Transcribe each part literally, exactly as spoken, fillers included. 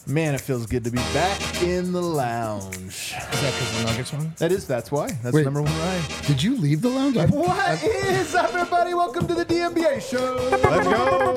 Man, it feels good to be back in the lounge. Is that because the Nuggets won? That is, that's why. That's Wait. number one ride. Did you leave the lounge? I, What is up, everybody? Welcome to the D N B A show. Let's go.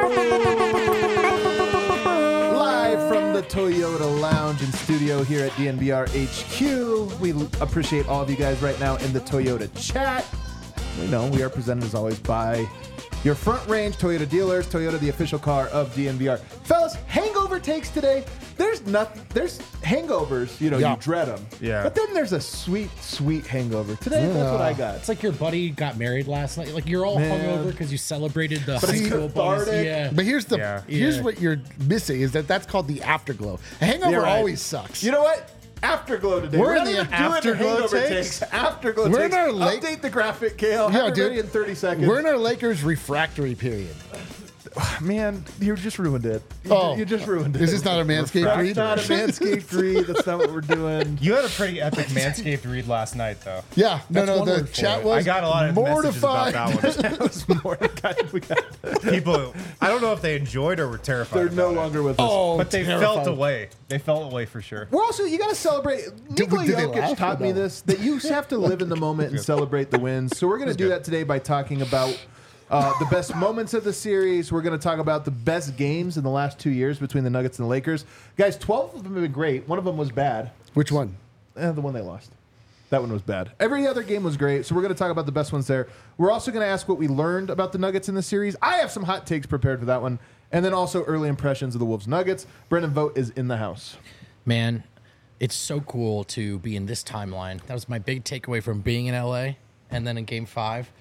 Live from the Toyota Lounge and studio here at D N B R H Q. We l- appreciate all of you guys right now in the Toyota chat. We know we are presented as always by your front range Toyota dealers. Toyota, the official car of D N B R. Fellas, hangover takes today. There's nothing. There's hangovers. You know, Yeah. you dread them. Yeah. But then there's a sweet, sweet hangover. Today, that's what I got. It's like your buddy got married last night. Like you're all Man. hungover because you celebrated the But high it's school buddies. cathartic. Yeah. but here's the Yeah. here's Yeah. what you're missing is that that's called the afterglow. A hangover You're right. always sucks. You know what? Afterglow today. We're not in the even doing afterglow hangover takes? Afterglow We're in takes. our late- Update the graphic, Kale. Yeah, Have it dude. ready in thirty seconds. We're in our Lakers refractory period. Man, you just ruined it. You, Oh. you just ruined it. Is this not a Manscaped That's read? not a Manscaped read. That's not what we're doing. You had a pretty epic Manscaped read last night, though. Yeah, no, That's no. one The word for chat it. was I got a lot of messages mortified. about that one. That was more. God, we got, People, I don't know if they enjoyed or were terrified. they're no about it. longer with us. Oh, But they terrifying. felt away. They felt away for sure. We're also, you got to celebrate. Nikola did they Jokic laugh or taught me no? this, that you have to live in the moment and celebrate the wins. So we're going to do good. that today by talking about uh, the best moments of the series. We're going to talk about the best games in the last two years between the Nuggets and the Lakers. Guys, twelve of them have been great. One of them was bad. Which one? Eh, the one they lost. That one was bad. Every other game was great, so we're going to talk about the best ones there. We're also going to ask what we learned about the Nuggets in the series. I have some hot takes prepared for that one. And then also early impressions of the Wolves Nuggets. Brendan Vogt is in the house. Man, it's so cool to be in this timeline. That was my big takeaway from being in L A and then in game five.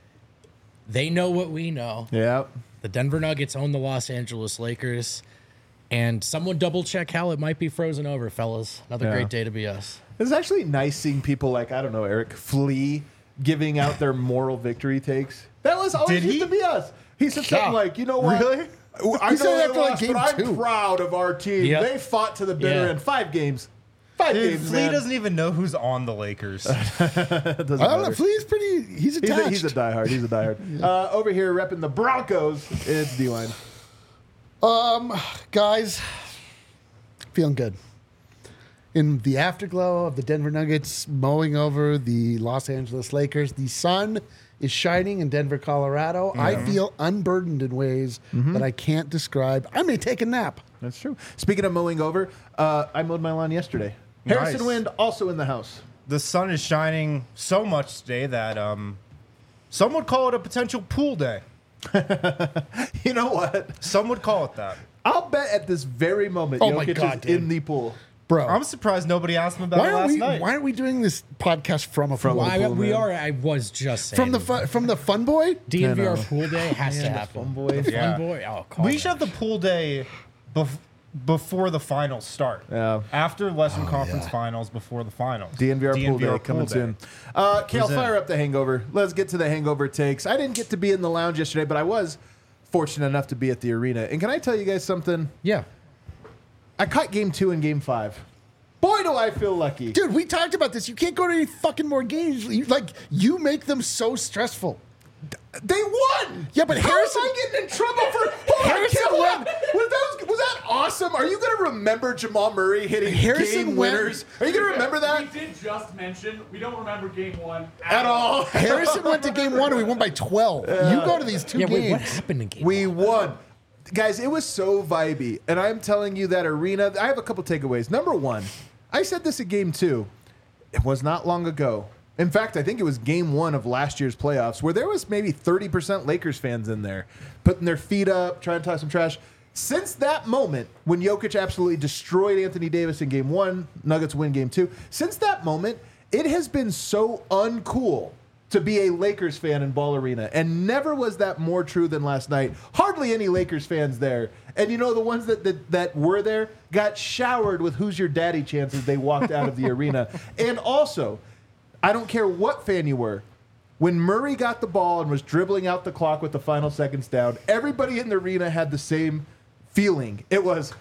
They know what we know. Yeah. The Denver Nuggets own the Los Angeles Lakers. And someone double check how it might be frozen over, fellas. Another Yeah. great day to be us. It's actually nice seeing people like, I don't know, Eric Flea giving out their moral victory takes. That was always Did used he? to be us. He said Yeah. something like, you know what? Really? I He know said they after, like, lost, game but I'm two. proud of our team. Yep. They fought to the bitter Yeah. end. Five games. Five Dude, games, Flea man. doesn't even know who's on the Lakers. It doesn't I don't know. matter. Flea's pretty. He's He's attached. a, he's a diehard. He's a diehard. uh, over here repping the Broncos, it's D-Line. Um, guys, feeling good. In the afterglow of the Denver Nuggets mowing over the Los Angeles Lakers, the sun is shining in Denver, Colorado. I feel unburdened in ways that I can't describe. I may take a nap. That's true. Speaking of mowing over, uh, I mowed my lawn yesterday. Harrison Nice. Wind also in the house. The sun is shining so much today that um, some would call it a potential pool day. You know what? Some would call it that. I'll bet at this very moment Oh my Jokic God, is dude. in the pool. Bro, I'm surprised nobody asked him about why it are last we night. why are we doing this podcast from a From pool? a Why pool, we man. are, I was just saying. from the fun, from the fun boy? D N V R I know. pool day has to happen. fun boy. The Yeah. fun boy. Oh, call We me. should have the pool day bef- before the finals start. Yeah. After Western Conference Finals, before the finals. D N V R pool day coming soon. Uh, Kale, Present. fire up the hangover. Let's get to the hangover takes. I didn't get to be in the lounge yesterday, but I was fortunate enough to be at the arena. And can I tell you guys something? Yeah. I caught game two and game five. Boy, do I feel lucky. Dude, we talked about this. You can't go to any fucking more games. You, like, you make them so stressful. They won. Yeah, but How Harrison- am I getting in trouble for Hold Harrison on, Kale, won. Was that, was that awesome? Are you going to remember Jamal Murray hitting Harrison game went- winners? Are you going to remember that We did just mention we don't remember game one at all? Harrison went to game one and we won by twelve. You go to these two Yeah, wait, what games. happened in game We one? won. Guys, it was so vibey. And I'm telling you that arena, I have a couple takeaways. Number one, I said this at game two. It was not long ago. In fact, I think it was game one of last year's playoffs where there was maybe thirty percent Lakers fans in there putting their feet up, trying to talk some trash. Since that moment, when Jokic absolutely destroyed Anthony Davis in game one, Nuggets win game two, since that moment, it has been so uncool to be a Lakers fan in Ball Arena. And never was that more true than last night. Hardly any Lakers fans there. And you know, the ones that, that, that were there got showered with who's your daddy chances they walked out of the arena. And also, I don't care what fan you were, when Murray got the ball and was dribbling out the clock with the final seconds down, everybody in the arena had the same feeling. It was,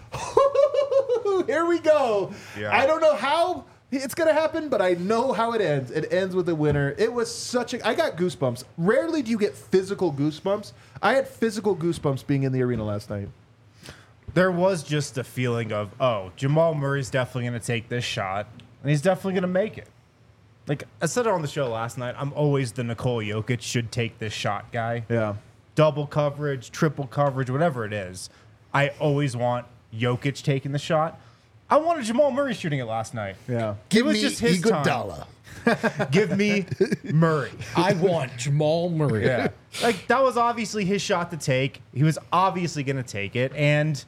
here we go. Yeah. I don't know how it's going to happen, but I know how it ends. It ends with a winner. It was such a... I got goosebumps. Rarely do you get physical goosebumps. I had physical goosebumps being in the arena last night. there was just a feeling of, oh, Jamal Murray's definitely going to take this shot, and he's definitely going to make it. Like, I said it on the show last night, I'm always the Nikola Jokic should take this shot guy. Yeah. Double coverage, triple coverage, whatever it is. I always want Jokic taking the shot. I wanted Jamal Murray shooting it last night. Yeah. Give it was me just his Iguodala. Give me Murray. I want Jamal Murray. Yeah. Like, that was obviously his shot to take. He was obviously going to take it. And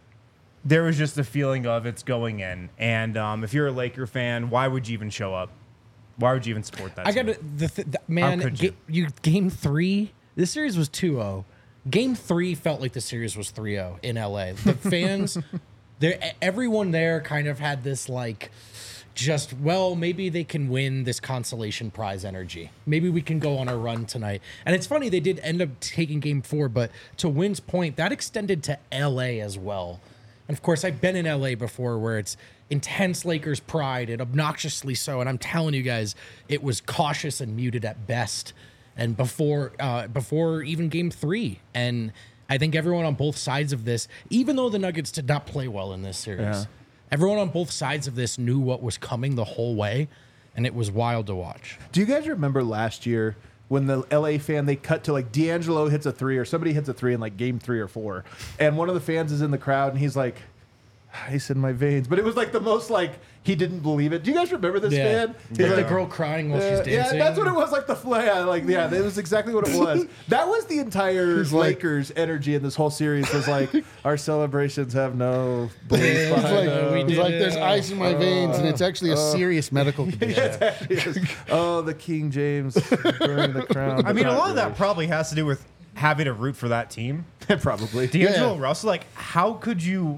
there was just a feeling of it's going in. And um, if you're a Laker fan, why would you even show up? Why would you even support that I team? got the, th- the man. could ga- you game three. This series was two oh. Game three felt like the series was three oh in L A. The fans, there, everyone there kind of had this like, just well, maybe they can win this consolation prize energy. Maybe we can go on a run tonight. And it's funny they did end up taking game four, but to Wynn's point, that extended to L A as well. And of course, I've been in L A before where it's intense Lakers pride and obnoxiously so. And I'm telling you guys, it was cautious and muted at best. And before uh, before even game three. And I think everyone on both sides of this, even though the Nuggets did not play well in this series, Yeah. everyone on both sides of this knew what was coming the whole way. And it was wild to watch. Do you guys remember last year when the L A fan, they cut to like D'Angelo hits a three or somebody hits a three in like game three or four. And one of the fans is in the crowd and he's like, ice in my veins. But it was like the most like, he didn't believe it. Do you guys remember this fan? He's Like the like, girl crying while Uh, she's dancing. Yeah, that's what it was. Like the fly, yeah, like yeah, that was exactly what it was. That was the entire He's like- Lakers energy in this whole series. Was like our celebrations have no belief Yeah, It's behind like, them. we it's did like it. there's ice in my veins, and it's actually a serious medical condition. Yes. Oh, the King James burning the crown. I mean, a Not lot of that really. probably has to do with having to root for that team. probably. D'Angelo Yeah. Russell, like, how could you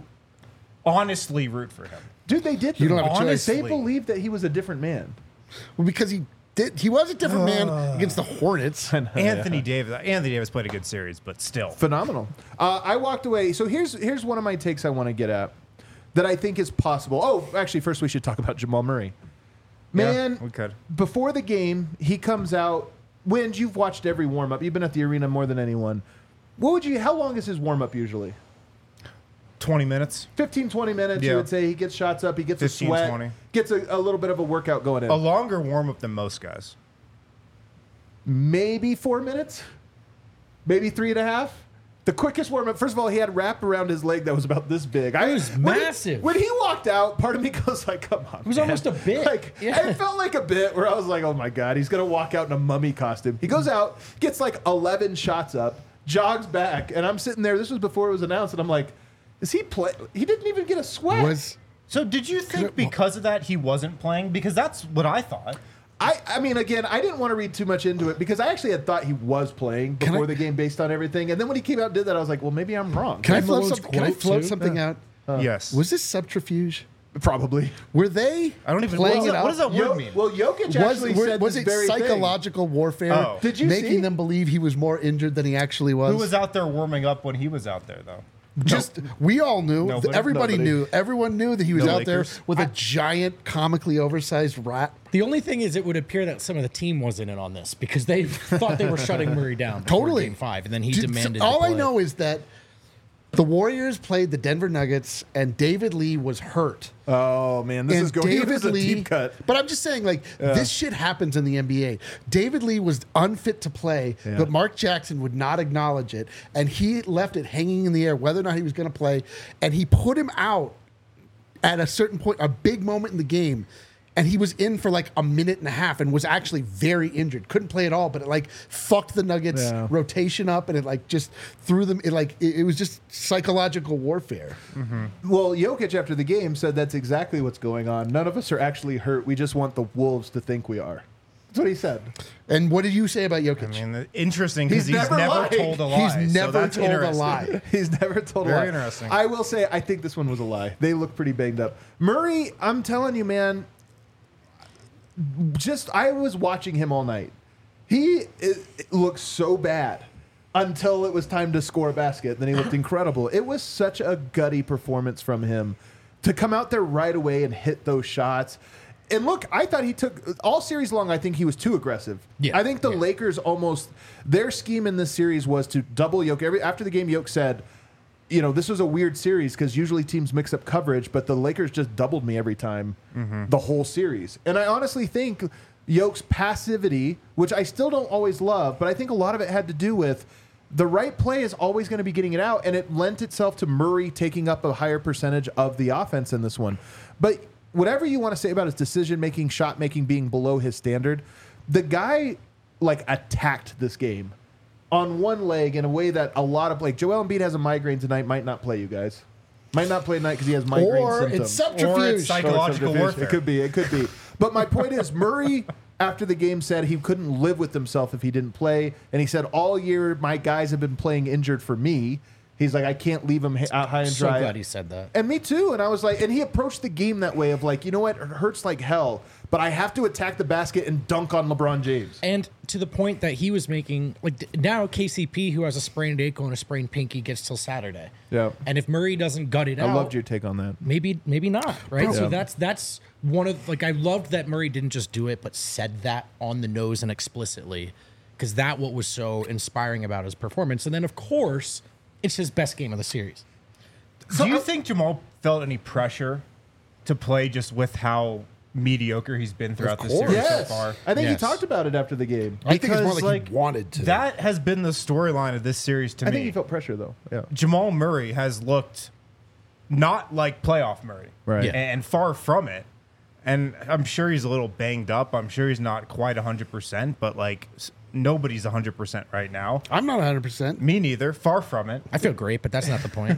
honestly root for him? Dude, they did. You don't have a choice. They believed that he was a different man. Well, because he did, he was a different man against the Hornets. Anthony Davis. Anthony Davis played a good series, but still. Phenomenal. Uh, I walked away. So here's here's one of my takes I want to get at that I think is possible. Oh, actually, first we should talk about Jamal Murray. Man, Yeah, we could. before the game, he comes out. Wind, you've watched every warm up. You've been at the arena more than anyone. What would you? How long is his warm up usually? twenty minutes. fifteen, twenty minutes. You Yeah. would say he gets shots up. He gets a fifteen, sweat. twenty. Gets a, a little bit of a workout going in. A longer warm up than most guys. Maybe four minutes. Maybe three and a half. The quickest warm up. First of all, he had wrap around his leg that was about this big. I It was when he- massive. When he walked out, part of me goes like, "Come on." It was almost a bit. Like Yeah. it felt like a bit where I was like, "Oh my god, he's gonna walk out in a mummy costume." He goes out, gets like eleven shots up, jogs back, and I'm sitting there. This was before it was announced, and I'm like, "Is he play?" He didn't even get a sweat. Was So did you think because of that he wasn't playing? Because that's what I thought. I, I mean, again, I didn't want to read too much into it because I actually had thought he was playing Can before I- the game based on everything. And then when he came out and did that, I was like, well, maybe I'm wrong. can I And float, Malone's some, can I quote, float too? something out? yes. Was this subterfuge? Probably. Were they I don't even playing what, it does that, out? what does that word Yo- mean? well, Jokic was actually were- said was this it very thing. psychological warfare? Oh. Did you making see? them believe he was more injured than he actually was? Who was out there warming up when he was out there, though? Just we all knew. Nobody. Everybody Nobody. knew. Everyone knew that he was No out Lakers. there with a giant, comically oversized rat. The only thing is, it would appear that some of the team wasn't in on this because they thought they were shutting Murray down before Totally. game five, and then he Dude, so demanded. all to I play. know is that the Warriors played the Denver Nuggets, and David Lee was hurt. Oh, man. This and is going David this is a Lee, deep cut. But I'm just saying, like, this shit happens in the N B A. David Lee was unfit to play, but Mark Jackson would not acknowledge it, and he left it hanging in the air whether or not he was going to play, and he put him out at a certain point, a big moment in the game. And he was in for like a minute and a half and was actually very injured. Couldn't play at all, but it like fucked the Nuggets Yeah. rotation up, and it like just threw them. It like it, it was just psychological warfare. Well, Jokic after the game said that's exactly what's going on. None of us are actually hurt. We just want the Wolves to think we are. That's what he said. And what did you say about Jokic? I mean, interesting because He's he's, never never, lied. told a lie. He's so never that's told a interesting. lie. He's never told a Very lie. interesting. I will say, I think this one was a lie. They look pretty banged up. Murray, I'm telling you, man, just I was watching him all night. He it, it looked so bad until it was time to score a basket. Then he looked incredible. It was such a gutty performance from him to come out there right away and hit those shots. And look, I thought he took all series long. I think he was too aggressive. Yeah, I think the yeah. Lakers almost their scheme in this series was to double Jokic. Every after the game, Jokic said, you know, this was a weird series because usually teams mix up coverage, but the Lakers just doubled me every time the whole series. And I honestly think Yoke's passivity, which I still don't always love, but I think a lot of it had to do with the right play is always going to be getting it out, and it lent itself to Murray taking up a higher percentage of the offense in this one. But whatever you want to say about his decision-making, shot-making being below his standard, the guy, like, attacked this game on one leg in a way that a lot of, like, Joel Embiid has a migraine tonight, might not play, you guys. Might not play tonight because he has migraine Or symptoms. it's subterfuge. Or it's psychological Or warfare. It could be. It could be. But my point is, Murray, after the game, said he couldn't live with himself if he didn't play. And he said, all year, my guys have been playing injured for me. He's like, I can't leave him out high and So dry. glad he said that. And me too. And I was like, and he approached the game that way of like, you know what? It hurts like hell, but I have to attack the basket and dunk on LeBron James. And to the point that he was making, like th- now K C P, who has a sprained ankle and a sprained pinky, gets till Saturday. Yeah. And if Murray doesn't gut it I out, loved your take on that. maybe maybe not, right? Yeah. So that's that's one of like I loved that Murray didn't just do it, but said that on the nose and explicitly, because that what was so inspiring about his performance. And then of course, it's his best game of the series. Do you think Jamal felt any pressure to play just with how mediocre he's been throughout the course. series Yes. so far? I think Yes. he talked about it after the game. I think it's more Because, like, he wanted to. That has been the storyline of this series to I me. think he felt pressure though. Yeah. Jamal Murray has looked not like playoff Murray, Right. Yeah. and far from it. And I'm sure he's a little banged up. I'm sure he's not quite one hundred percent, but like s- nobody's one hundred percent right now. I'm not one hundred percent. Me neither. Far from it. I feel great, but that's not the point.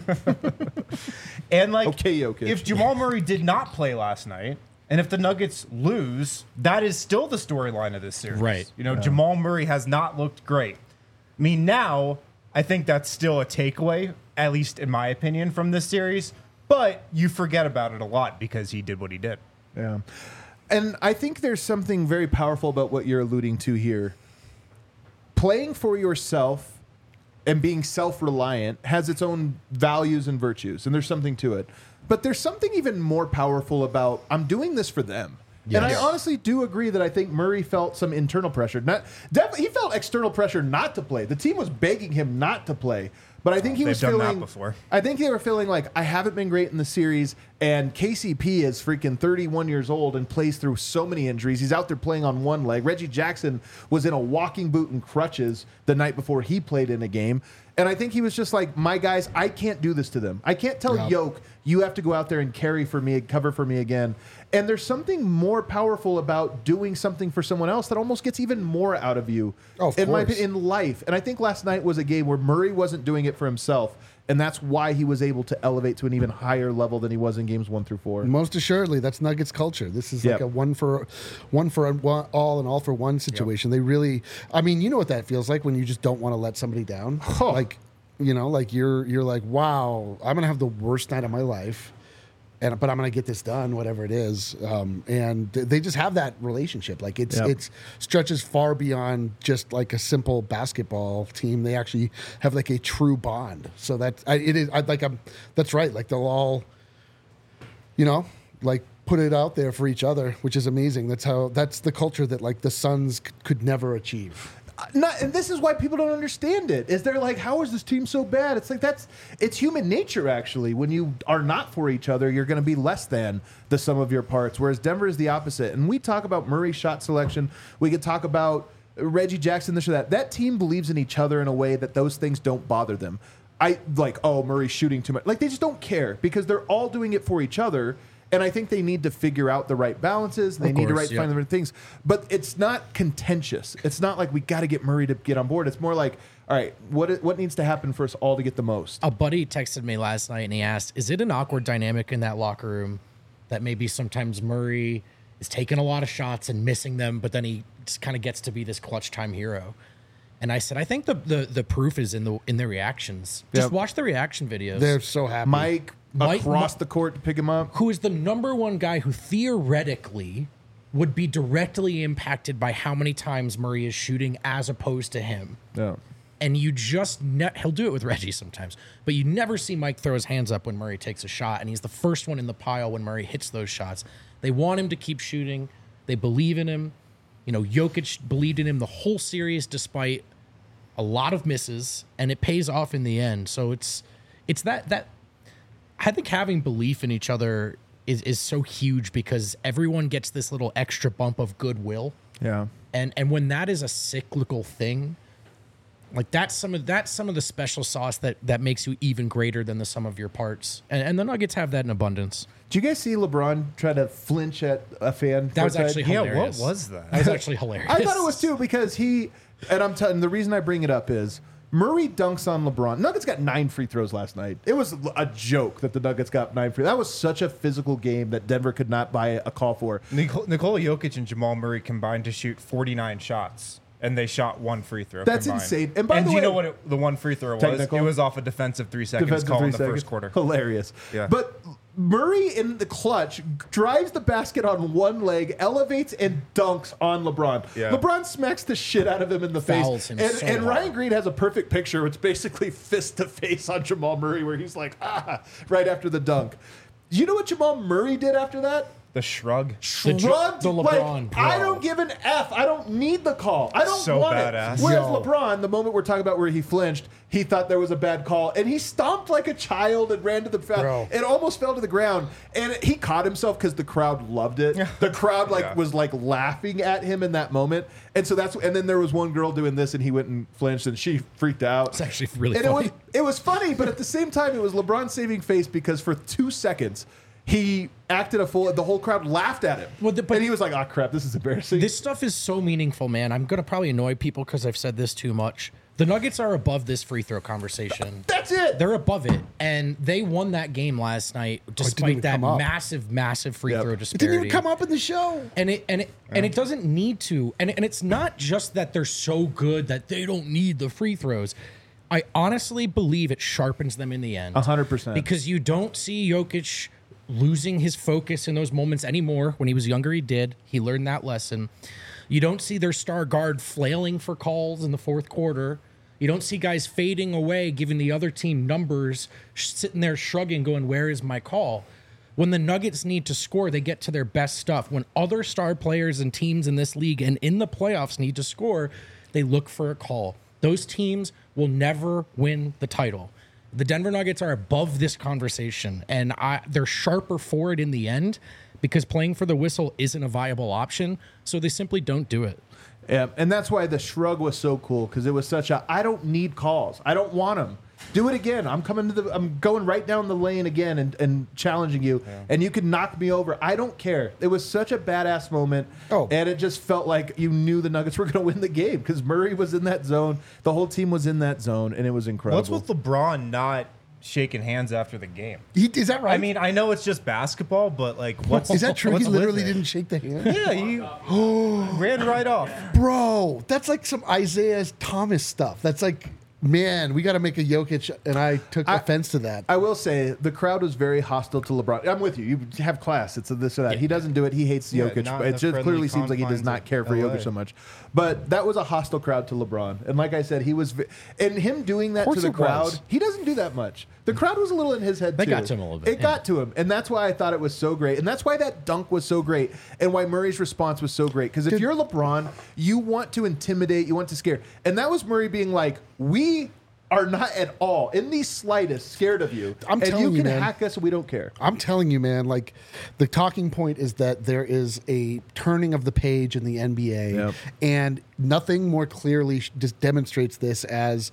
And like, Okay, Jokic. if Jamal Murray did not play last night, and if the Nuggets lose, that is still the storyline of this series. Right. You know, Jamal Murray has not looked great. I mean, now I think that's still a takeaway, at least in my opinion, from this series. But you forget about it a lot because he did what he did. Yeah. And I think there's something very powerful about what you're alluding to here. Playing for yourself and being self-reliant has its own values and virtues, and there's something to it. But there's something even more powerful about I'm doing this for them. And I Yes. honestly do agree that I think Murray felt some internal pressure. Not def- he felt external pressure not to play. The team was begging him not to play. But I think he They've was done that feeling before. I think they were feeling like I haven't been great in the series, and K C P is freaking thirty-one years old and plays through so many injuries. He's out there playing on one leg. Reggie Jackson was in a walking boot and crutches the night before he played in a game. And I think he was just like, my guys, I can't do this to them. I can't tell Yeah. Yoke, you have to go out there and carry for me, cover for me again. And there's something more powerful about doing something for someone else that almost gets even more out of you Oh, of in my course. opinion, in life. And I think last night was a game where Murray wasn't doing it for himself. And that's why he was able to elevate to an even higher level than he was in games one through four. Most assuredly, that's Nuggets culture. This is like Yep. a one for one for one, all and all for one situation. They really, I mean, you know what that feels like when you just don't want to let somebody down. Oh. Like, you know, like you're you're like, wow, I'm gonna have the worst night of my life, and but I'm gonna get this done, whatever it is. Um, and th- they just have that relationship. Like it's Yep. it's stretches far beyond just like a simple basketball team. They actually have like a true bond. So that I, it is I, like I'm. That's right. Like they'll all, you know, like put it out there for each other, which is amazing. That's how that's the culture that like the Suns c- could never achieve. Not, and this is why people don't understand it. Is they're like, how is this team so bad? It's like that's it's human nature actually. When you are not for each other, you're going to be less than the sum of your parts. Whereas Denver is the opposite. And we talk about Murray's shot selection. We could talk about Reggie Jackson, this or that. That team believes in each other in a way that those things don't bother them. I like, oh, Murray's shooting too much. Like they just don't care because they're all doing it for each other. And I think they need to figure out the right balances. And they Of need to course, right, yeah. find the right things. But it's not contentious. It's not like we got to get Murray to get on board. It's more like, all right, what what needs to happen for us all to get the most? A buddy texted me last night and he asked, is it an awkward dynamic in that locker room that maybe sometimes Murray is taking a lot of shots and missing them, but then he just kind of gets to be this clutch time hero? And I said, I think the the, the proof is in the in the reactions. Just Yep. watch the reaction videos. They're so happy. Mike, Mike- across Mi- the court to pick him up. who is the number one guy who theoretically would be directly impacted by how many times Murray is shooting as opposed to him. Yeah. And you just ne- he'll do it with Reggie sometimes, but you never see Mike throw his hands up when Murray takes a shot, and he's the first one in the pile when Murray hits those shots. They want him to keep shooting. They believe in him. You know, Jokic believed in him the whole series despite a lot of misses, and it pays off in the end. So it's it's that that I think having belief in each other is is so huge because everyone gets this little extra bump of goodwill. Yeah. And and when that is a cyclical thing, like that's some of that's some of the special sauce that that makes you even greater than the sum of your parts. And and the Nuggets have that in abundance. Did you guys see LeBron try to flinch at a fan? That was courtside? actually Yeah, hilarious. what was that? That was actually hilarious. I thought it was too because he and I'm telling the reason I bring it up is Murray dunks on LeBron. Nuggets got nine free throws last night. It was a joke that the Nuggets got nine free. That was such a physical game that Denver could not buy a call for. Nicole, Nikola Jokic and Jamal Murray combined to shoot forty-nine shots, and they shot one free throw. That's combined. insane. And by the do you way- know what it, the one free throw was? Technical? It was off a defensive three seconds Defensive call three in the seconds. first quarter. Hilarious. Yeah. But Murray in the clutch drives the basket on one leg, elevates and dunks on LeBron. Yeah. LeBron smacks the shit out of him in the Fouls face. him And, so and hard. Ryan Green has a perfect picture. It's basically fist to face on Jamal Murray where he's like, ah, right after the dunk. You know what Jamal Murray did after that? The shrug. The Ju- Shrugged the like, LeBron, bro. I don't give an F. I don't need the call. I don't So want badass. it. Whereas Yo. LeBron, the moment we're talking about where he flinched, he thought there was a bad call, and he stomped like a child and ran to the foul. Bro. It almost fell to the ground, and he caught himself because the crowd loved it. The crowd like Yeah. was like laughing at him in that moment, and so that's. And then there was one girl doing this, and he went and flinched, and she freaked out. It's actually really and funny. It was, it was funny, but at the same time, it was LeBron saving face because for two seconds. He acted a fool. The whole crowd laughed at him. Well, the- but- and he was like, oh, crap, this is embarrassing. This stuff is so meaningful, man. I'm going to probably annoy people because I've said this too much. The Nuggets are above this free throw conversation. That's it. They're above it. And they won that game last night even despite that come up. massive, massive free Yep. throw It It didn't disparity. even come up in the show. And it and it and it doesn't need to. And and it's not just that they're so good that they don't need the free throws. I honestly believe it sharpens them in the end. A hundred percent. Because you don't see Jokic losing his focus in those moments anymore. When he was younger, he did. He learned that lesson. You don't see their star guard flailing for calls in the fourth quarter. You don't see guys fading away, giving the other team numbers, sh- sitting there shrugging, going, where is my call? When the Nuggets need to score, they get to their best stuff. When other star players and teams in this league and in the playoffs need to score, they look for a call. Those teams will never win the title. The Denver Nuggets are above this conversation, and I, they're sharper for it in the end because playing for the whistle isn't a viable option, so they simply don't do it. Yeah, and that's why the shrug was so cool because it was such a I don't need calls. I don't want them. Do it again. I'm coming to the. I'm going right down the lane again and, and challenging you, yeah. and you can knock me over. I don't care. It was such a badass moment. Oh. and it just felt like you knew the Nuggets were going to win the game because Murray was in that zone. The whole team was in that zone, and it was incredible. What's with LeBron not shaking hands after the game? He, is that right? I mean, I know it's just basketball, but like, what's is that true? He what's with literally it? didn't shake the hand. Yeah, he ran right off. Bro, that's like some Isaiah Thomas stuff. That's like, man, we got to make a Jokic, and I took I- offense to that. I will say the crowd was very hostile to LeBron. I'm with you. You have class. It's a this or that. He doesn't do it. He hates Yeah, Jokic. not But in it the just friendly clearly seems like he does confines not of care for L A. Jokic so much. But that was a hostile crowd to LeBron. And like I said, he was, v- and him doing that to course the it crowd, was. he doesn't do that much. The crowd was a little in his head They too. got to him a little bit, It yeah. got to him, and that's why I thought it was so great, and that's why that dunk was so great, and why Murray's response was so great. Because if Dude. you're LeBron, you want to intimidate, you want to scare, and that was Murray being like, "We are not at all in the slightest scared of you, I'm and telling you you, can man. hack us, and we don't care." I'm telling you, man, like the talking point is that there is a turning of the page in the N B A, Yep. and nothing more clearly sh- just demonstrates this as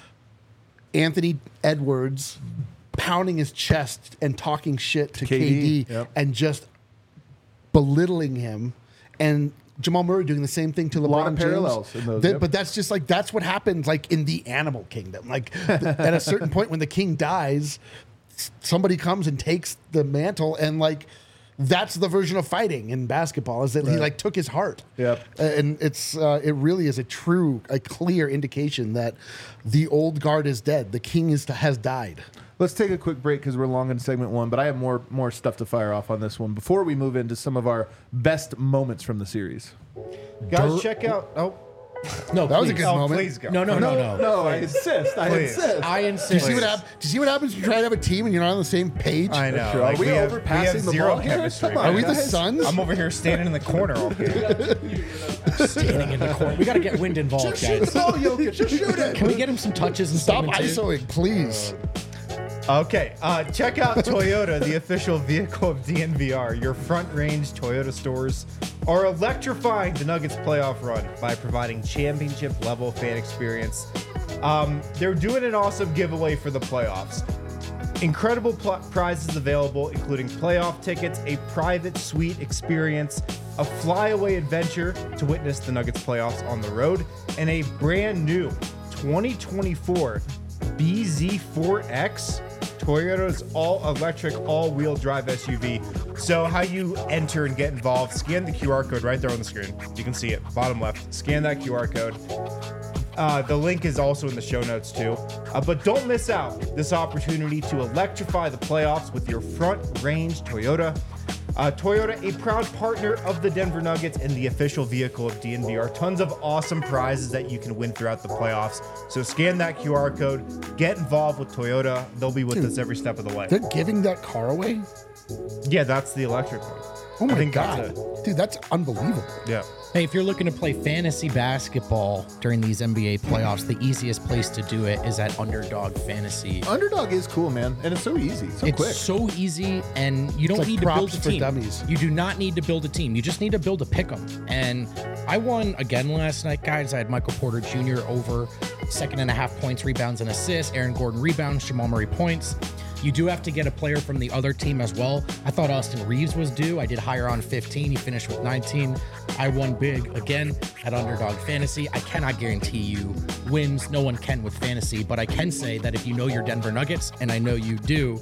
Anthony Edwards pounding his chest and talking shit to K K D, D, yep. and just belittling him, and Jamal Murray doing the same thing to LeBron lot of James. parallels in those, That- yep. But that's just like that's what happens like in the animal kingdom. Like th- at a certain point when the king dies, s- somebody comes and takes the mantle, and like that's the version of fighting in basketball is that he Right. like took his heart. Yep. Uh, and it's uh, it really is a true, a clear indication that the old guard is dead. The king is has died. Let's take a quick break because we're long in segment one, but I have more more stuff to fire off on this one before we move into some of our best moments from the series. Guys, check out. Oh, No, That was a please. good oh moment. please go. No, no, no, no. No, I insist. I Please. insist. I Do you insist. see what hap- Do you see what happens when you try to have a team and you're not on the same page? I know. Are Like, we, we have- overpassing we have the zero ball here? chemistry. Come on, Are we the guys. Suns? I'm over here standing in the corner all here. Standing in the corner. We got to get Wind involved, Just shoot the guys. ball, Jokic. Just shoot it. Can we get him some touches and Stop segment two? ISOing, please. Okay, uh, check out Toyota, the official vehicle of D N V R. Your front-range Toyota stores are electrifying the Nuggets playoff run by providing championship-level fan experience. Um, they're doing an awesome giveaway for the playoffs. Incredible pl- prizes available, including playoff tickets, a private suite experience, a flyaway adventure to witness the Nuggets playoffs on the road, and a brand new twenty twenty-four B Z four X, Toyota's all-electric, all-wheel drive S U V. So how you enter and get involved, scan the Q R code right there on the screen. You can see it, bottom left. Scan that Q R code. Uh, the link is also in the show notes too. Uh, but don't miss out this opportunity to electrify the playoffs with your front-range Toyota. Uh, Toyota, a proud partner of the Denver Nuggets and the official vehicle of D N V R. Tons of awesome prizes that you can win throughout the playoffs. So scan that Q R code, get involved with Toyota. They'll be with Dude, us every step of the way. They're giving that car away? Yeah, that's the electric one. Oh my I think God. that's it. Dude, that's unbelievable. Yeah. Hey, if you're looking to play fantasy basketball during these N B A playoffs, the easiest place to do it is at Underdog Fantasy. Underdog is cool, man, and it's so easy, so It's quick. so easy, and you don't like need to build props a for team. dummies. You do not need to build a team. You just need to build a pick'em. And I won again last night, guys. I had Michael Porter Junior over second and a half points, rebounds, and assists. Aaron Gordon rebounds. Jamal Murray points. You do have to get a player from the other team as well. I thought Austin Reeves was due. I did higher on fifteen. He finished with nineteen. I won big again at Underdog Fantasy. I cannot guarantee you wins. No one can with fantasy, but I can say that if you know your Denver Nuggets, and I know you do,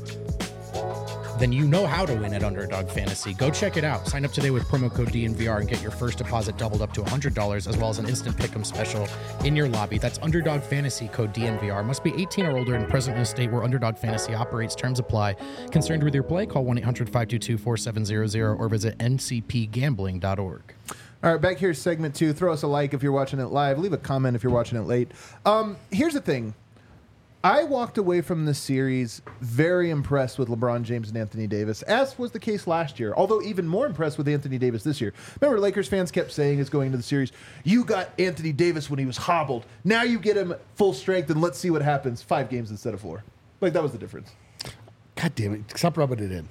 then you know how to win at Underdog Fantasy. Go check it out. Sign up today with promo code D N V R and get your first deposit doubled up to one hundred dollars, as well as an instant pick'em special in your lobby. That's Underdog Fantasy, code D N V R. Must be eighteen or older and present in a state where Underdog Fantasy operates. Terms apply. Concerned with your play? Call one eight hundred five two two four seven zero zero or visit N C P gambling dot org. All right, back here, segment two. Throw us a like if you're watching it live. Leave a comment if you're watching it late. Um, here's the thing. I walked away from this series very impressed with LeBron James and Anthony Davis, as was the case last year, although even more impressed with Anthony Davis this year. Remember, Lakers fans kept saying as going into the series, you got Anthony Davis when he was hobbled. Now you get him full strength, and let's see what happens. Five games instead of four. Like, that was the difference. God damn it. Stop rubbing it in.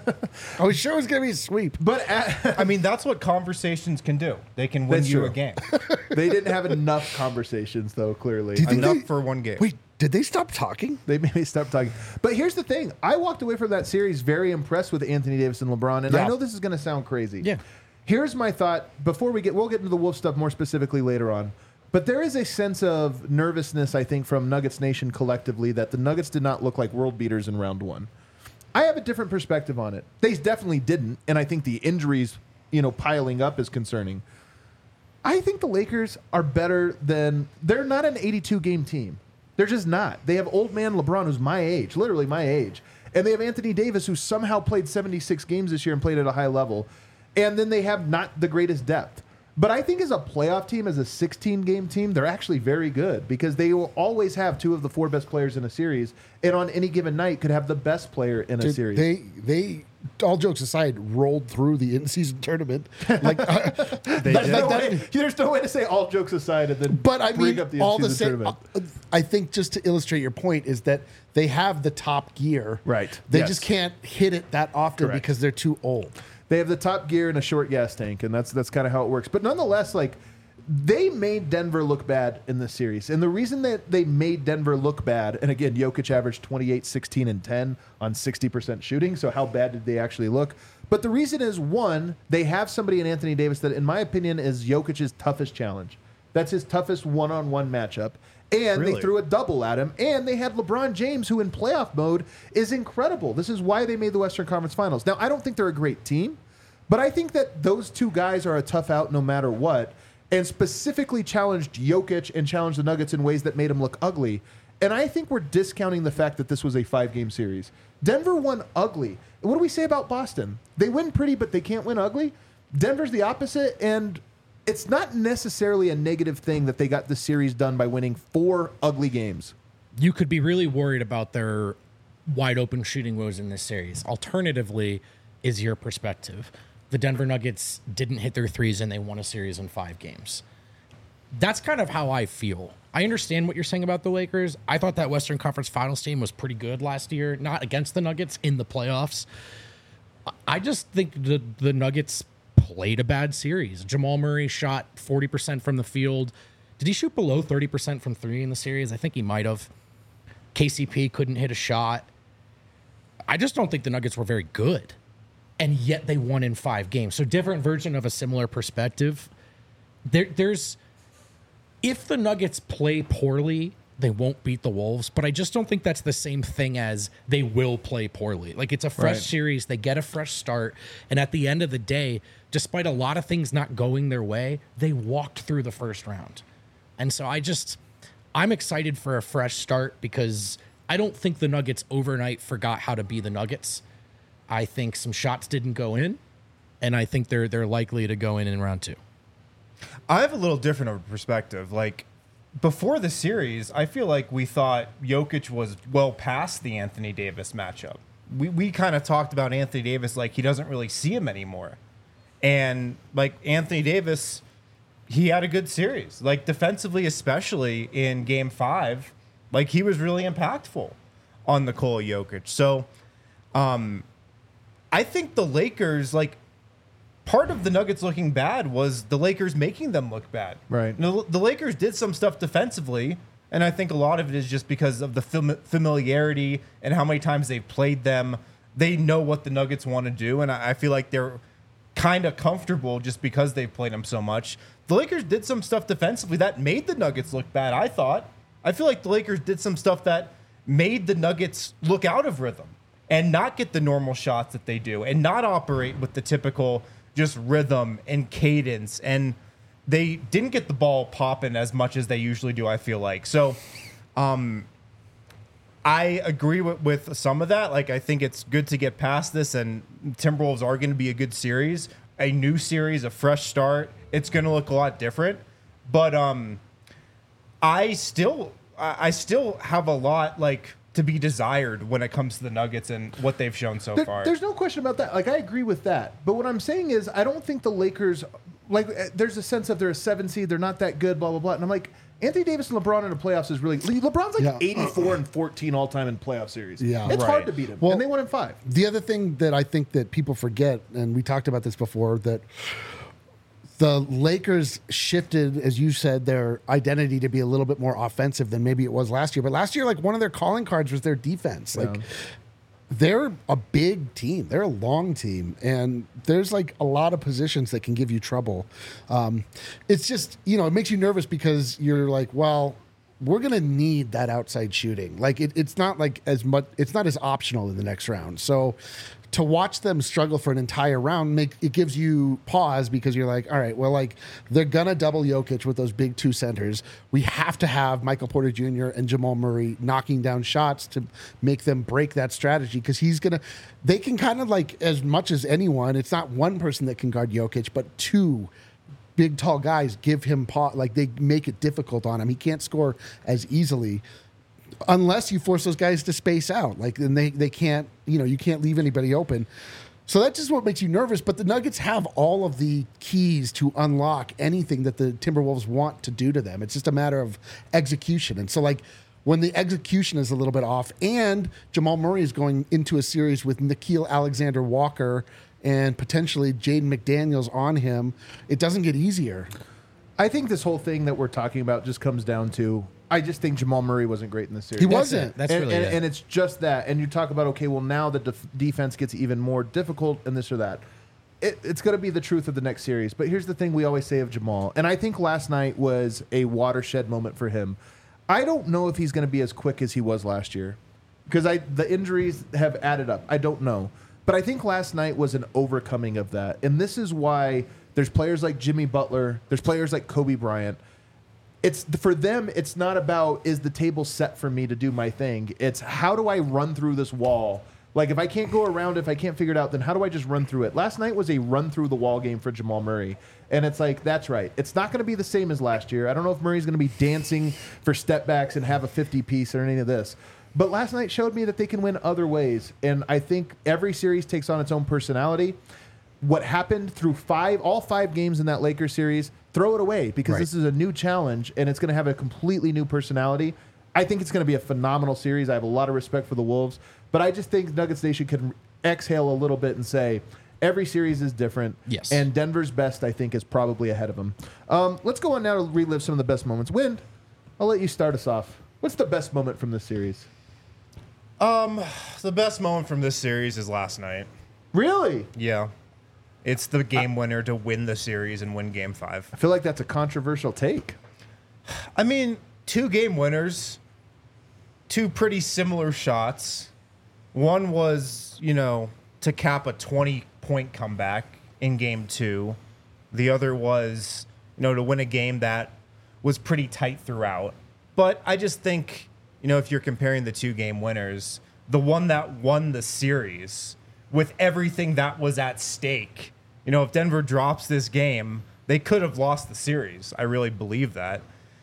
I was sure it was going to be a sweep. But at, I mean, that's what conversations can do. They can win That's you true. a game. they didn't have enough conversations, though, clearly. Do you think Enough they- for one game. Wait, did they stop talking? They made me stop talking. But here's the thing. I walked away from that series very impressed with Anthony Davis and LeBron, and Yeah. I know this is going to sound crazy. Yeah. Here's my thought. Before we get, we'll get into the Wolf stuff more specifically later on. But there is a sense of nervousness, I think, from Nuggets Nation collectively that the Nuggets did not look like world beaters in round one. I have a different perspective on it. They definitely didn't, and I think the injuries, you know, piling up is concerning. I think the Lakers are better than, they're not an eighty-two game team. They're just not. They have old man LeBron, who's my age, literally my age. And they have Anthony Davis, who somehow played seventy-six games this year and played at a high level. And then they have not the greatest depth. But I think as a playoff team, as a sixteen game team, they're actually very good because they will always have two of the four best players in a series. And on any given night could have the best player in a Dude, series. They, they, all jokes aside, rolled through the in-season tournament. Like, uh, They There's did. no, way, there's no way to say all jokes aside and then but I bring mean, up the all the in-season same. tournament. uh, I think just to illustrate your point is that they have the top gear. Right. They Yes. just can't hit it that often Correct. because they're too old. They have the top gear and a short gas tank, and that's that's kind of how it works. But nonetheless, like they made Denver look bad in this series. And the reason that they made Denver look bad, and again, Jokic averaged twenty-eight, sixteen, and ten on sixty percent shooting. So how bad did they actually look? But the reason is, one, they have somebody in Anthony Davis that, in my opinion, is Jokic's toughest challenge. That's his toughest one-on-one matchup. And Really? they threw a double at him. And they had LeBron James, who in playoff mode is incredible. This is why they made the Western Conference Finals. Now, I don't think they're a great team, but I think that those two guys are a tough out no matter what, and specifically challenged Jokic and challenged the Nuggets in ways that made him look ugly. And I think we're discounting the fact that this was a five-game series. Denver won ugly. What do we say about Boston? They win pretty, but they can't win ugly. Denver's the opposite, and it's not necessarily a negative thing that they got the series done by winning four ugly games. You could be really worried about their wide open shooting woes in this series. Alternatively, is your perspective. The Denver Nuggets didn't hit their threes and they won a series in five games. that's kind of how I feel. I understand what you're saying about the Lakers. I thought that Western Conference Finals team was pretty good last year, not against the Nuggets in the playoffs. I just think the the Nuggets played a bad series. Jamal Murray shot forty percent from the field. Did he shoot below thirty percent from three in the series? I think he might have. K C P couldn't hit a shot. I just don't think the Nuggets were very good. And yet they won in five games. So different version of a similar perspective. There, there's... If the Nuggets play poorly, they won't beat the Wolves. But I just don't think that's the same thing as they will play poorly. Like, it's a fresh Right. series. They get a fresh start. And at the end of the day, despite a lot of things not going their way, they walked through the first round. And so I just... I'm excited for a fresh start because I don't think the Nuggets overnight forgot how to be the Nuggets. I think some shots didn't go in, and I think they're they're likely to go in in round two. I have a little different of a perspective. Like, before the series, I feel like we thought Jokic was well past the Anthony Davis matchup. We we kind of talked about Anthony Davis like he doesn't really see him anymore. And, like, Anthony Davis, he had a good series. Like, defensively, especially in game five, like, he was really impactful on Nikola Jokic. So, um, I think the Lakers, like, part of the Nuggets looking bad was the Lakers making them look bad. Right. The, the Lakers did some stuff defensively, and I think a lot of it is just because of the fam- familiarity and how many times they've played them. They know what the Nuggets want to do, and I, I feel like they're kind of comfortable just because they've played them so much. The Lakers did some stuff defensively that made the Nuggets look bad, I thought. I feel like the Lakers did some stuff that made the Nuggets look out of rhythm and not get the normal shots that they do and not operate with the typical just rhythm and cadence. And they didn't get the ball popping as much as they usually do, I feel like. So um, I agree with, with some of that. Like, I think it's good to get past this, and Timberwolves are going to be a good series, a new series, a fresh start. It's going to look a lot different. But um, I still I I still have a lot, like, to be desired when it comes to the Nuggets and what they've shown so There- far. There's no question about that. Like, I agree with that. But what I'm saying is, I don't think the Lakers, like, uh, there's a sense of they're a seven seed, they're not that good, blah, blah, blah. And I'm like, Anthony Davis and LeBron in the playoffs is really, Le- LeBron's like Yeah. eighty-four and fourteen all time in playoff series. Yeah. It's Right. hard to beat him. Well- and they won in five. The other thing that I think that people forget, and we talked about this before, that the Lakers shifted, as you said, their identity to be a little bit more offensive than maybe it was last year. But last year, like, one of their calling cards was their defense. Like, Yeah. they're a big team. They're a long team, and there's like a lot of positions that can give you trouble. Um, it's just, you know, it makes you nervous because you're like, well, we're gonna need that outside shooting. Like, it, it's not like as much. It's not as optional in the next round. So to watch them struggle for an entire round, make it gives you pause because you're like, all right, well, like, they're gonna double Jokic with those big two centers. We have to have Michael Porter Junior and Jamal Murray knocking down shots to make them break that strategy, because he's gonna. They can kind of, like, as much as anyone. It's not one person that can guard Jokic, but two big tall guys give him pause. Like, they make it difficult on him. He can't score as easily unless you force those guys to space out. Like, and they, they can't, you know, you can't leave anybody open. So that's just what makes you nervous. But the Nuggets have all of the keys to unlock anything that the Timberwolves want to do to them. It's just a matter of execution. And so, like, when the execution is a little bit off, and Jamal Murray is going into a series with Nickeil Alexander-Walker and potentially Jaden McDaniels on him, it doesn't get easier. I think this whole thing that we're talking about just comes down to, I just think Jamal Murray wasn't great in this series. He That's wasn't. it. That's and, really and, it. and it's just that. And you talk about, okay, well, now the def- defense gets even more difficult and this or that. It, it's going to be the truth of the next series. But here's the thing we always say of Jamal. And I think last night was a watershed moment for him. I don't know if he's going to be as quick as he was last year, because I the injuries have added up. I don't know. But I think last night was an overcoming of that. And this is why there's players like Jimmy Butler. There's players like Kobe Bryant. It's for them, it's not about, is the table set for me to do my thing? It's, how do I run through this wall? Like, if I can't go around, if I can't figure it out, then how do I just run through it? Last night was a run through the wall game for Jamal Murray. And it's like, that's right. It's not going to be the same as last year. I don't know if Murray's going to be dancing for step backs and have a fifty piece or any of this. But last night showed me that they can win other ways. And I think every series takes on its own personality. what happened through five, all five games in that Lakers series, throw it away because Right. this is a new challenge and it's going to have a completely new personality. I think it's going to be a phenomenal series. I have a lot of respect for the Wolves, but I just think Nuggets Nation can exhale a little bit and say every series is different. Yes. And Denver's best, I think, is probably ahead of them. Um, let's go on now to relive some of the best moments. Wind, I'll let you start us off. What's the best moment from this series? The best moment from this series is last night. Really? Yeah. It's the game winner to win the series and win game five. I feel like that's a controversial take. I mean, two game winners, two pretty similar shots. One was, you know, to cap a twenty point comeback in game two. The other was, you know, to win a game that was pretty tight throughout. But I just think, you know, if you're comparing the two game winners, the one that won the series with everything that was at stake, you know, if Denver drops this game, they could have lost the series. I really believe that.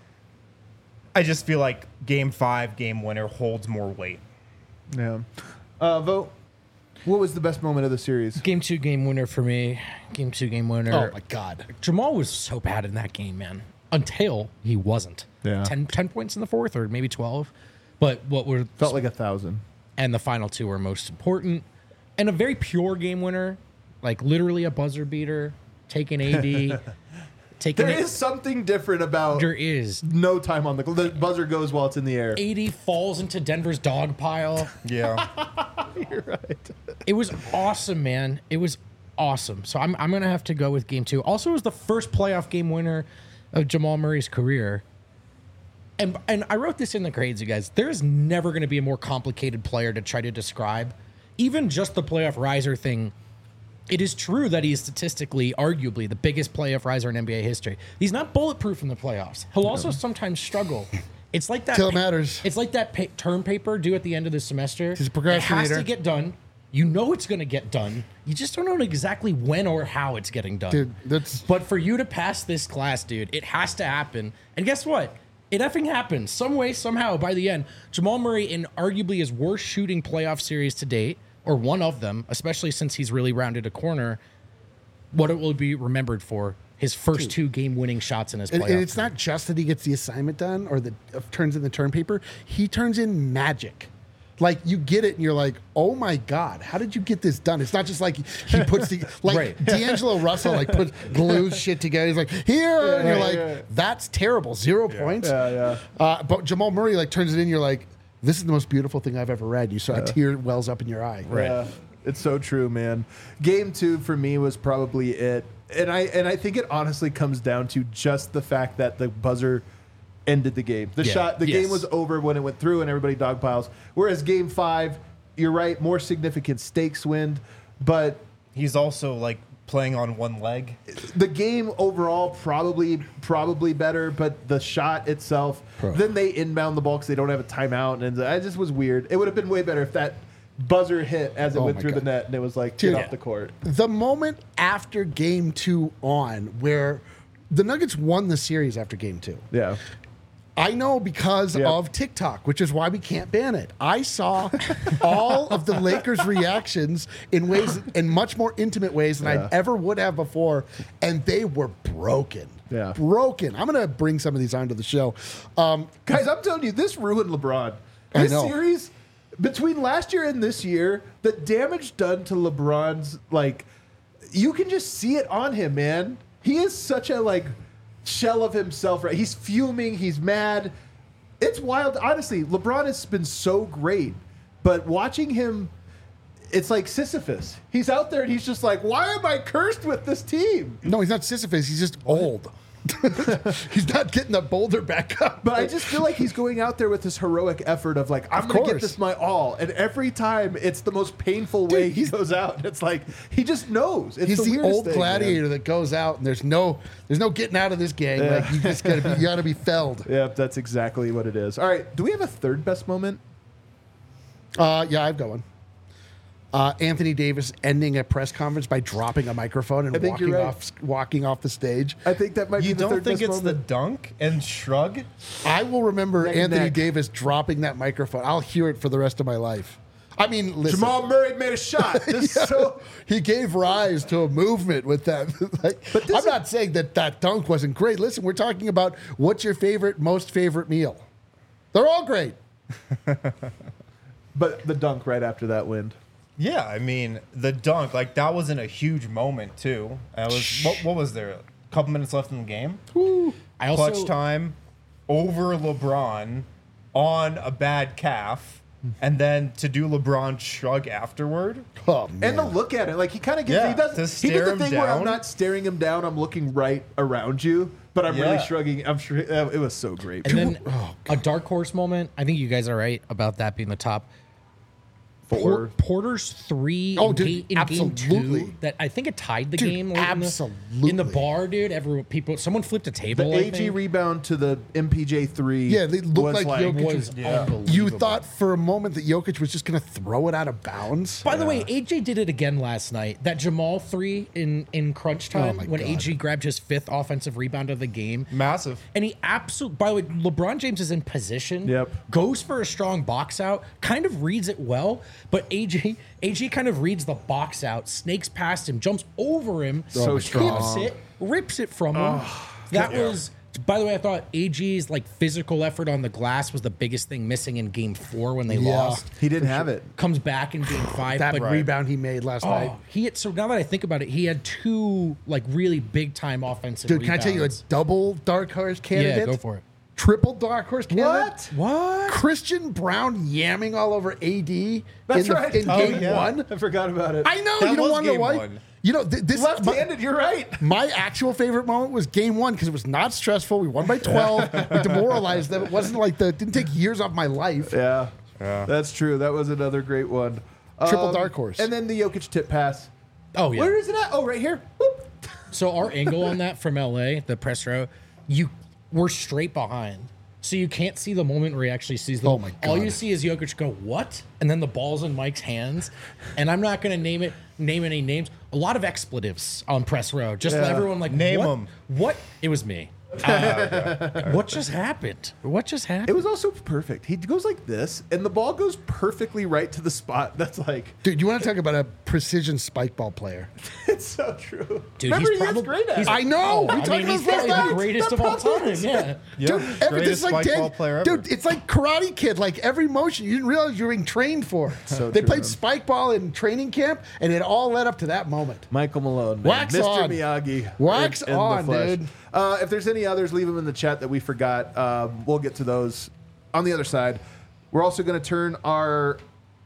I just feel like game five, game winner holds more weight. Yeah. Uh, Vote. What was the best moment of the series? Game two, game winner for me. Game two, game winner. Oh my God. Jamal was so bad in that game, man. Until he wasn't. Yeah. ten, ten points in the fourth, or maybe twelve. But what were Felt like a thousand. and the final two were most important. And a very pure game winner, like literally a buzzer beater, taking A D, taking There it. is something different about There is. no time on the the buzzer goes while it's in the air. A D falls into Denver's dog pile. Yeah. You're right. It was awesome, man. It was awesome. So I'm I'm gonna have to go with game two. Also, it was the first playoff game winner of Jamal Murray's career. And and I wrote this in the grades, you guys. There is never gonna be a more complicated player to try to describe. Even just the playoff riser thing. It is true that he is statistically, arguably, the biggest playoff riser in N B A history. He's not bulletproof in the playoffs. He'll also sometimes struggle. It's like that. Till it pa- matters. It's like that pa- term paper due at the end of the semester. He's a It has procrastinator. to get done. You know it's going to get done. You just don't know exactly when or how it's getting done. Dude, that's But for you to pass this class, dude, it has to happen. And guess what? It effing happened. Some way, somehow, by the end, Jamal Murray in arguably his worst shooting playoff series to date, or one of them, especially since he's really rounded a corner, what it will be remembered for, his first two game-winning shots in his and, playoff. and it's not just that he gets the assignment done or the uh, turns in the term paper. He turns in magic. Like you get it, and you're like, "Oh my God, how did you get this done?" It's not just like he puts the like Right. D'Angelo Russell like puts glues shit together. He's like, "Here," and you're yeah, like, yeah. "That's terrible, zero points." Yeah, yeah. Uh, but Jamal Murray like turns it in. You're like, "This is the most beautiful thing I've ever read." You saw a tear wells up in your eye. Right. Yeah, it's so true, man. Game two for me was probably it, and I and I think it honestly comes down to just the fact that the buzzer ended the game. The Yeah. shot, the Yes. game was over when it went through, and everybody dogpiles. Whereas game five, you're right, more significant stakes win, but He's also like playing on one leg. the game overall probably probably better, but the shot itself. Then they inbound the ball because they don't have a timeout, and I just was weird. It would have been way better if that buzzer hit as it Oh went my through God. the net, and it was like Dude. get off the court. The moment after game two on, where the Nuggets won the series after game two. Yeah. I know because Yep. of TikTok, which is why we can't ban it. I saw all of the Lakers' reactions in ways, in much more intimate ways than Yeah. I ever would have before, and they were broken. Yeah. Broken. I'm gonna bring some of these onto the show. Um, Guys, I'm telling you, this ruined LeBron. I This know. series, between last year and this year, the damage done to LeBron's, like, you can just see it on him, man. He is such a, like, shell of himself, right? He's fuming, he's mad. It's wild. Honestly, LeBron has been so great, but watching him, it's like Sisyphus. He's out there and he's just like, why am I cursed with this team? no, he's not Sisyphus. He's just old. He's not getting the boulder back up. But I just feel like he's going out there with this heroic effort of like, I'm Of going to get course. this my all. And every time it's the most painful way he he's- goes out. It's like, he just knows. It's He's the, the, weirdest old thing, gladiator man. that goes out and there's no there's no getting out of this gang. Like you just gotta be you gotta be felled. Yep, that's exactly what it is. All right, do we have a third best moment? Uh, yeah, I've got one. Uh, Anthony Davis ending a press conference by dropping a microphone and I think walking you're right. off walking off the stage. I think that might You be the don't third think best it's the moment. dunk and shrug? I will remember Neck and Anthony neck. Davis dropping that microphone. I'll hear it for the rest of my life. I mean, listen, Jamal Murray made a shot. This is so he gave rise to a movement with that. Like, But this I'm is- not saying that that dunk wasn't great. Listen, we're talking about what's your favorite, most favorite meal. They're all great. But the dunk right after that wind. Yeah, I mean the dunk, like that wasn't a huge moment too. I was what, what was there? A couple minutes left in the game. I also Clutch time over LeBron on a bad calf, and then to do LeBron shrug afterward. Oh man. And to look at it, like he kind of gives, Yeah, he does, to he stare did the him thing where I'm down. not staring him down, I'm looking right around you, but I'm really Yeah. shrugging. I'm sure uh, it was so great. and then a dark horse moment. I think you guys are right about that being the top. Four. Por- Porter's three Oh, in, dude, ga- in game absolutely. two that I think it tied the Dude, game. late in the- absolutely. in the bar, dude. Everyone, people, someone flipped a The table. I A G think. rebound to the M P J three. Yeah, they looked was like like Jokic was Yeah. unbelievable. You thought for a moment that Jokic was just going to throw it out of bounds. By the way, A J did it again last night. That Jamal three in in crunch time Oh my when God. A G grabbed his fifth offensive rebound of the game. Massive. And he absolutely, by the way, LeBron James is in position. Yep. Goes for a strong box out, kind of reads it well, but A J A G kind of reads the box out, snakes past him, jumps over him, So rips strong. it, rips it from him. That was, by the way, I thought A G's like physical effort on the glass was the biggest thing missing in game four when they Yeah. lost. He didn't have it. Comes back in game five. That but rebound he made last night. Oh, he had, so now that I think about it, he had two like really big time offensive Dude, can I tell you a rebounds. double dark horse candidate? Yeah, go for it. Triple dark horse candidate? What? What? Christian Brown yamming all over A D That's in, the, right. in Oh, game yeah. one. I forgot about it. I know, That you don't was wonder game why. one. You know, th- this is my, Left-handed, you're right. my actual favorite moment was game one because it was not stressful. We won by twelve. We demoralized them. It wasn't like the, it didn't take years off my life. Yeah. That's true. That was another great one. Triple dark horse. And then the Jokic tip pass. Oh yeah. Where is it at? Oh, right here. Whoop. So our angle on that from L A, the press row, you we're straight behind. So you can't see the moment where he actually sees the Oh my All God. you see is Jokic go, what? And then the ball's in Mike's hands. And I'm not gonna name it name any names. A lot of expletives on press row. Just Yeah. everyone like Name what? 'em. What? It was me. Uh, what just happened? What just happened? It was also perfect. He goes like this, and the ball goes perfectly right to the spot. That's like, Dude, you want to talk about a precision spike ball player? it's so true. Dude, Remember, he's he probably is great at he's- it. I know. we I talked mean, about he's this last probably night. the greatest The of all time. puppets. Yeah. Yeah. Dude, every, this is Greatest like spike Dan- ball player ever. Dude, it's like Karate Kid. Like every motion, you didn't realize you were being trained for. So they true, played man. spike ball in training camp, and it all led up to that moment. Michael Malone, man. Wax Mister on. Miyagi. Wax in- in the on, flesh. dude. Uh, if there's any others, leave them in the chat that we forgot. Um, we'll get to those on the other side. We're also going to turn our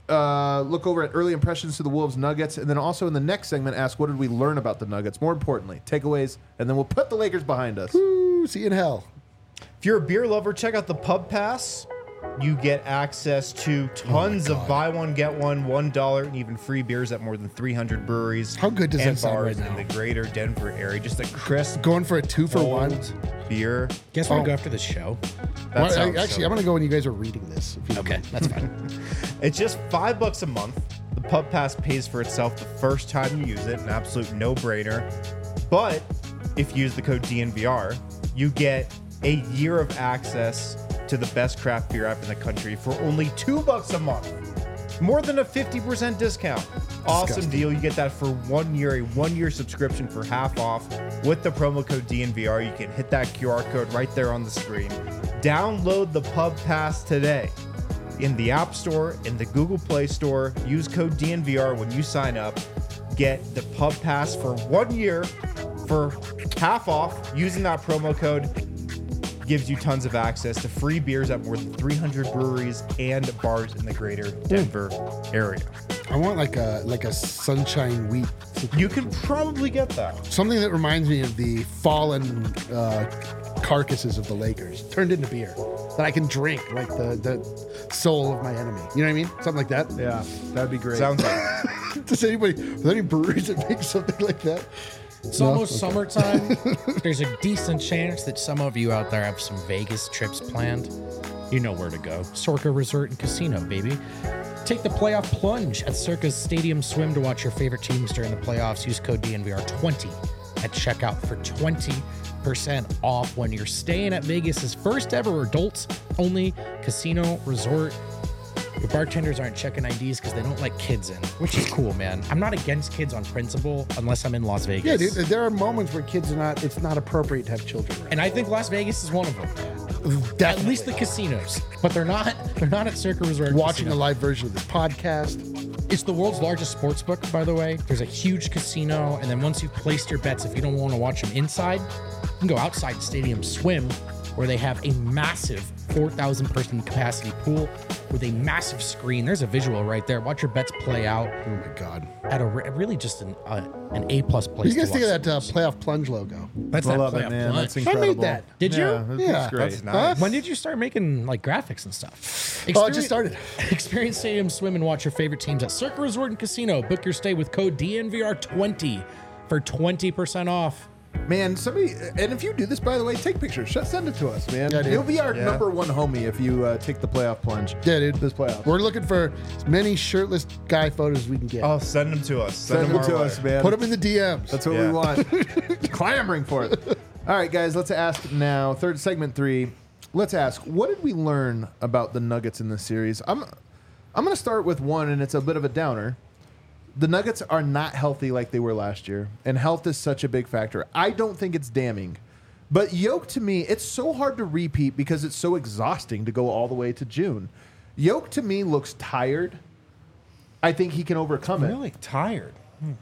uh, look over at early impressions to the Wolves Nuggets, and then also in the next segment, ask what did we learn about the Nuggets? More importantly, takeaways, and then we'll put the Lakers behind us. Ooh, see you in hell. If you're a beer lover, check out the Pub Pass. You get access to tons of buy one get one one dollar and even free beers at more than three hundred breweries. How good does and that sound bars right now? in the greater Denver area? Just a crisp Going for a two for one. old beer. Guess where Oh. to go after this show. That Well, I- sounds actually, so I'm going to go when you guys are reading this. If you don't Okay, mind. that's fine. It's just five bucks a month. The Pub Pass pays for itself the first time you use it, an absolute no-brainer. But if you use the code D N V R, you get a year of access to the best craft beer app in the country for only two bucks a month. More than a fifty percent discount. Awesome Disgusting. deal. You get that for one year, a one-year subscription for half off with the promo code D N V R. You can hit that Q R code right there on the screen. Download the Pub Pass today in the App Store, in the Google Play Store. Use code D N V R when you sign up. Get the Pub Pass for one year for half off using that promo code. Gives you tons of access to free beers at more than three hundred breweries and bars in the greater Denver area. I want like a like a sunshine wheat. You can probably get that. Something that reminds me of the fallen uh, carcasses of the Lakers turned into beer that I can drink, like the, the soul of my enemy. You know what I mean? Something like that. Yeah, that'd be great. Sounds good. Does anybody, are there any breweries that make something like that? It's No? almost Okay. summertime. There's a decent chance that some of you out there have some Vegas trips planned. You know where to go. Circa Resort and Casino, baby. Take the playoff plunge at Circa's Stadium Swim to watch your favorite teams during the playoffs. Use code D N V R twenty at checkout for twenty percent off when you're staying at Vegas's first ever adults only casino resort. Your bartenders aren't checking I Ds because they don't let kids in, which is cool, man. I'm not against kids on principle unless I'm in Las Vegas. Yeah, dude. There are moments where kids are not. It's not appropriate to have children around. And I think Las Vegas is one of them. Definitely. At least the casinos, but they're not. They're not at Circa Resort. Watching Casino. a live version of this podcast. It's the world's largest sports book, by the way. There's a huge casino, and then once you've placed your bets, if you don't want to watch them inside, you can go outside the stadium swim, where they have a massive four thousand person capacity pool with a massive screen. There's a visual right there. Watch your bets play out Oh my god. at a re- really just an uh, an A plus place. What do you guys to think of watch that uh, sports. playoff plunge logo? That's I that love it, playoff man. plunge. That's I incredible. made that. Did you? Yeah, that's Yeah. great. That's nice. When did you start making like graphics and stuff? Oh, it just started. Experience Stadium Swim and watch your favorite teams at Circa Resort and Casino. Book your stay with code D N V R twenty for twenty percent off. Man, somebody, and if you do this, by the way, take pictures. Sh- Send it to us, man. Yeah, dude. You'll be our Yeah. number one homie if you uh, take the playoff plunge. Yeah, dude. This playoff. We're looking for as many shirtless guy photos as we can get. Oh, send them to us. Send, Send them them to our us, way. man. Put them in the D Ms. That's what Yeah. we want. Clamoring for it. All right, guys, let's ask now. Third segment three. Let's ask, what did we learn about the Nuggets in this series? I'm, I'm going to start with one, and it's a bit of a downer. The Nuggets are not healthy like they were last year, and health is such a big factor. I don't think it's damning. But Yoke, to me, it's so hard to repeat because it's so exhausting to go all the way to June. Yoke, to me, looks tired. I think he can overcome it. Really tired.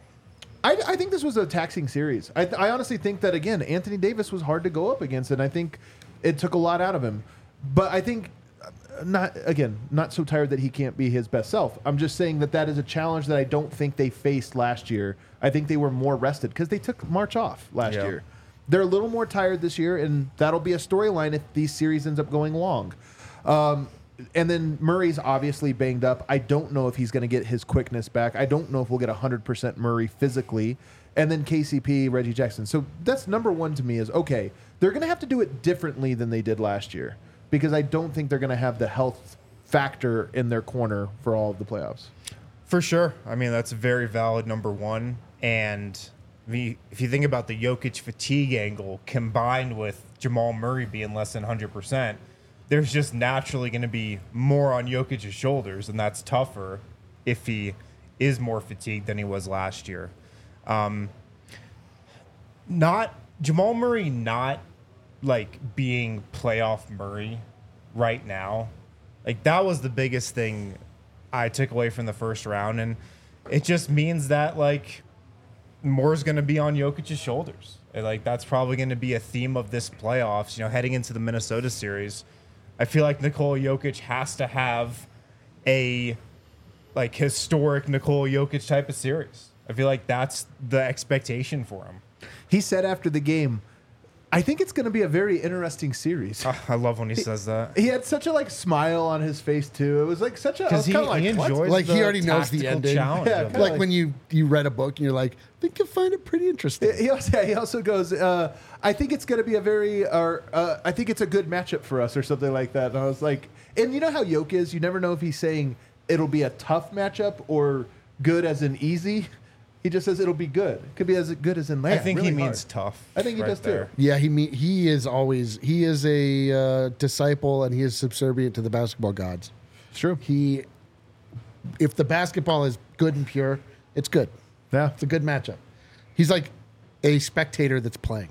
I, I think this was a taxing series. I, I honestly think that, again, Anthony Davis was hard to go up against, and I think it took a lot out of him. But I think, uh, not again, not so tired that he can't be his best self. I'm just saying that that is a challenge that I don't think they faced last year. I think they were more rested because they took March off last Yeah. year. They're a little more tired this year, and that'll be a storyline if these series ends up going long. Um, and then Murray's obviously banged up. I don't know if he's going to get his quickness back. I don't know if we'll get one hundred percent Murray physically. And then K C P, Reggie Jackson. So that's number one to me is, okay, they're going to have to do it differently than they did last year because I don't think they're going to have the health factor in their corner for all of the playoffs. For sure. I mean, that's a very valid number one. And I mean, if you think about the Jokic fatigue angle combined with Jamal Murray being less than one hundred percent, there's just naturally going to be more on Jokic's shoulders, and that's tougher if he is more fatigued than he was last year. Um, not Jamal Murray not like being playoff Murray right now. Like that was the biggest thing I took away from the first round, and it just means that like more is going to be on Jokic's shoulders. And, like that's probably going to be a theme of this playoffs. You know, heading into the Minnesota series, I feel like Nikola Jokic has to have a like historic Nikola Jokic type of series. I feel like that's the expectation for him. He said after the game, I think it's going to be a very interesting series. Ah, I love when he says that. He had such a like smile on his face too. It was like such a I was Because he, kinda like, he what? enjoys Like, he the already knows the tactical ending. challenge Yeah, of it. kinda Like when you you read a book and you're like, I think you'll find it pretty interesting. He also, he also goes, uh, I think it's going to be a very, uh, uh, I think it's a good matchup for us or something like that. And I was like, and you know how Yoke is? You never know if he's saying it'll be a tough matchup or good as in easy. He just says it'll be good. It could be as good as in land. I think really he means hard. tough. I think he right does too. there. Yeah, he me- he is always he is a uh, disciple and he is subservient to the basketball gods. It's true. He, if the basketball is good and pure, it's good. Yeah. It's a good matchup. He's like a spectator that's playing.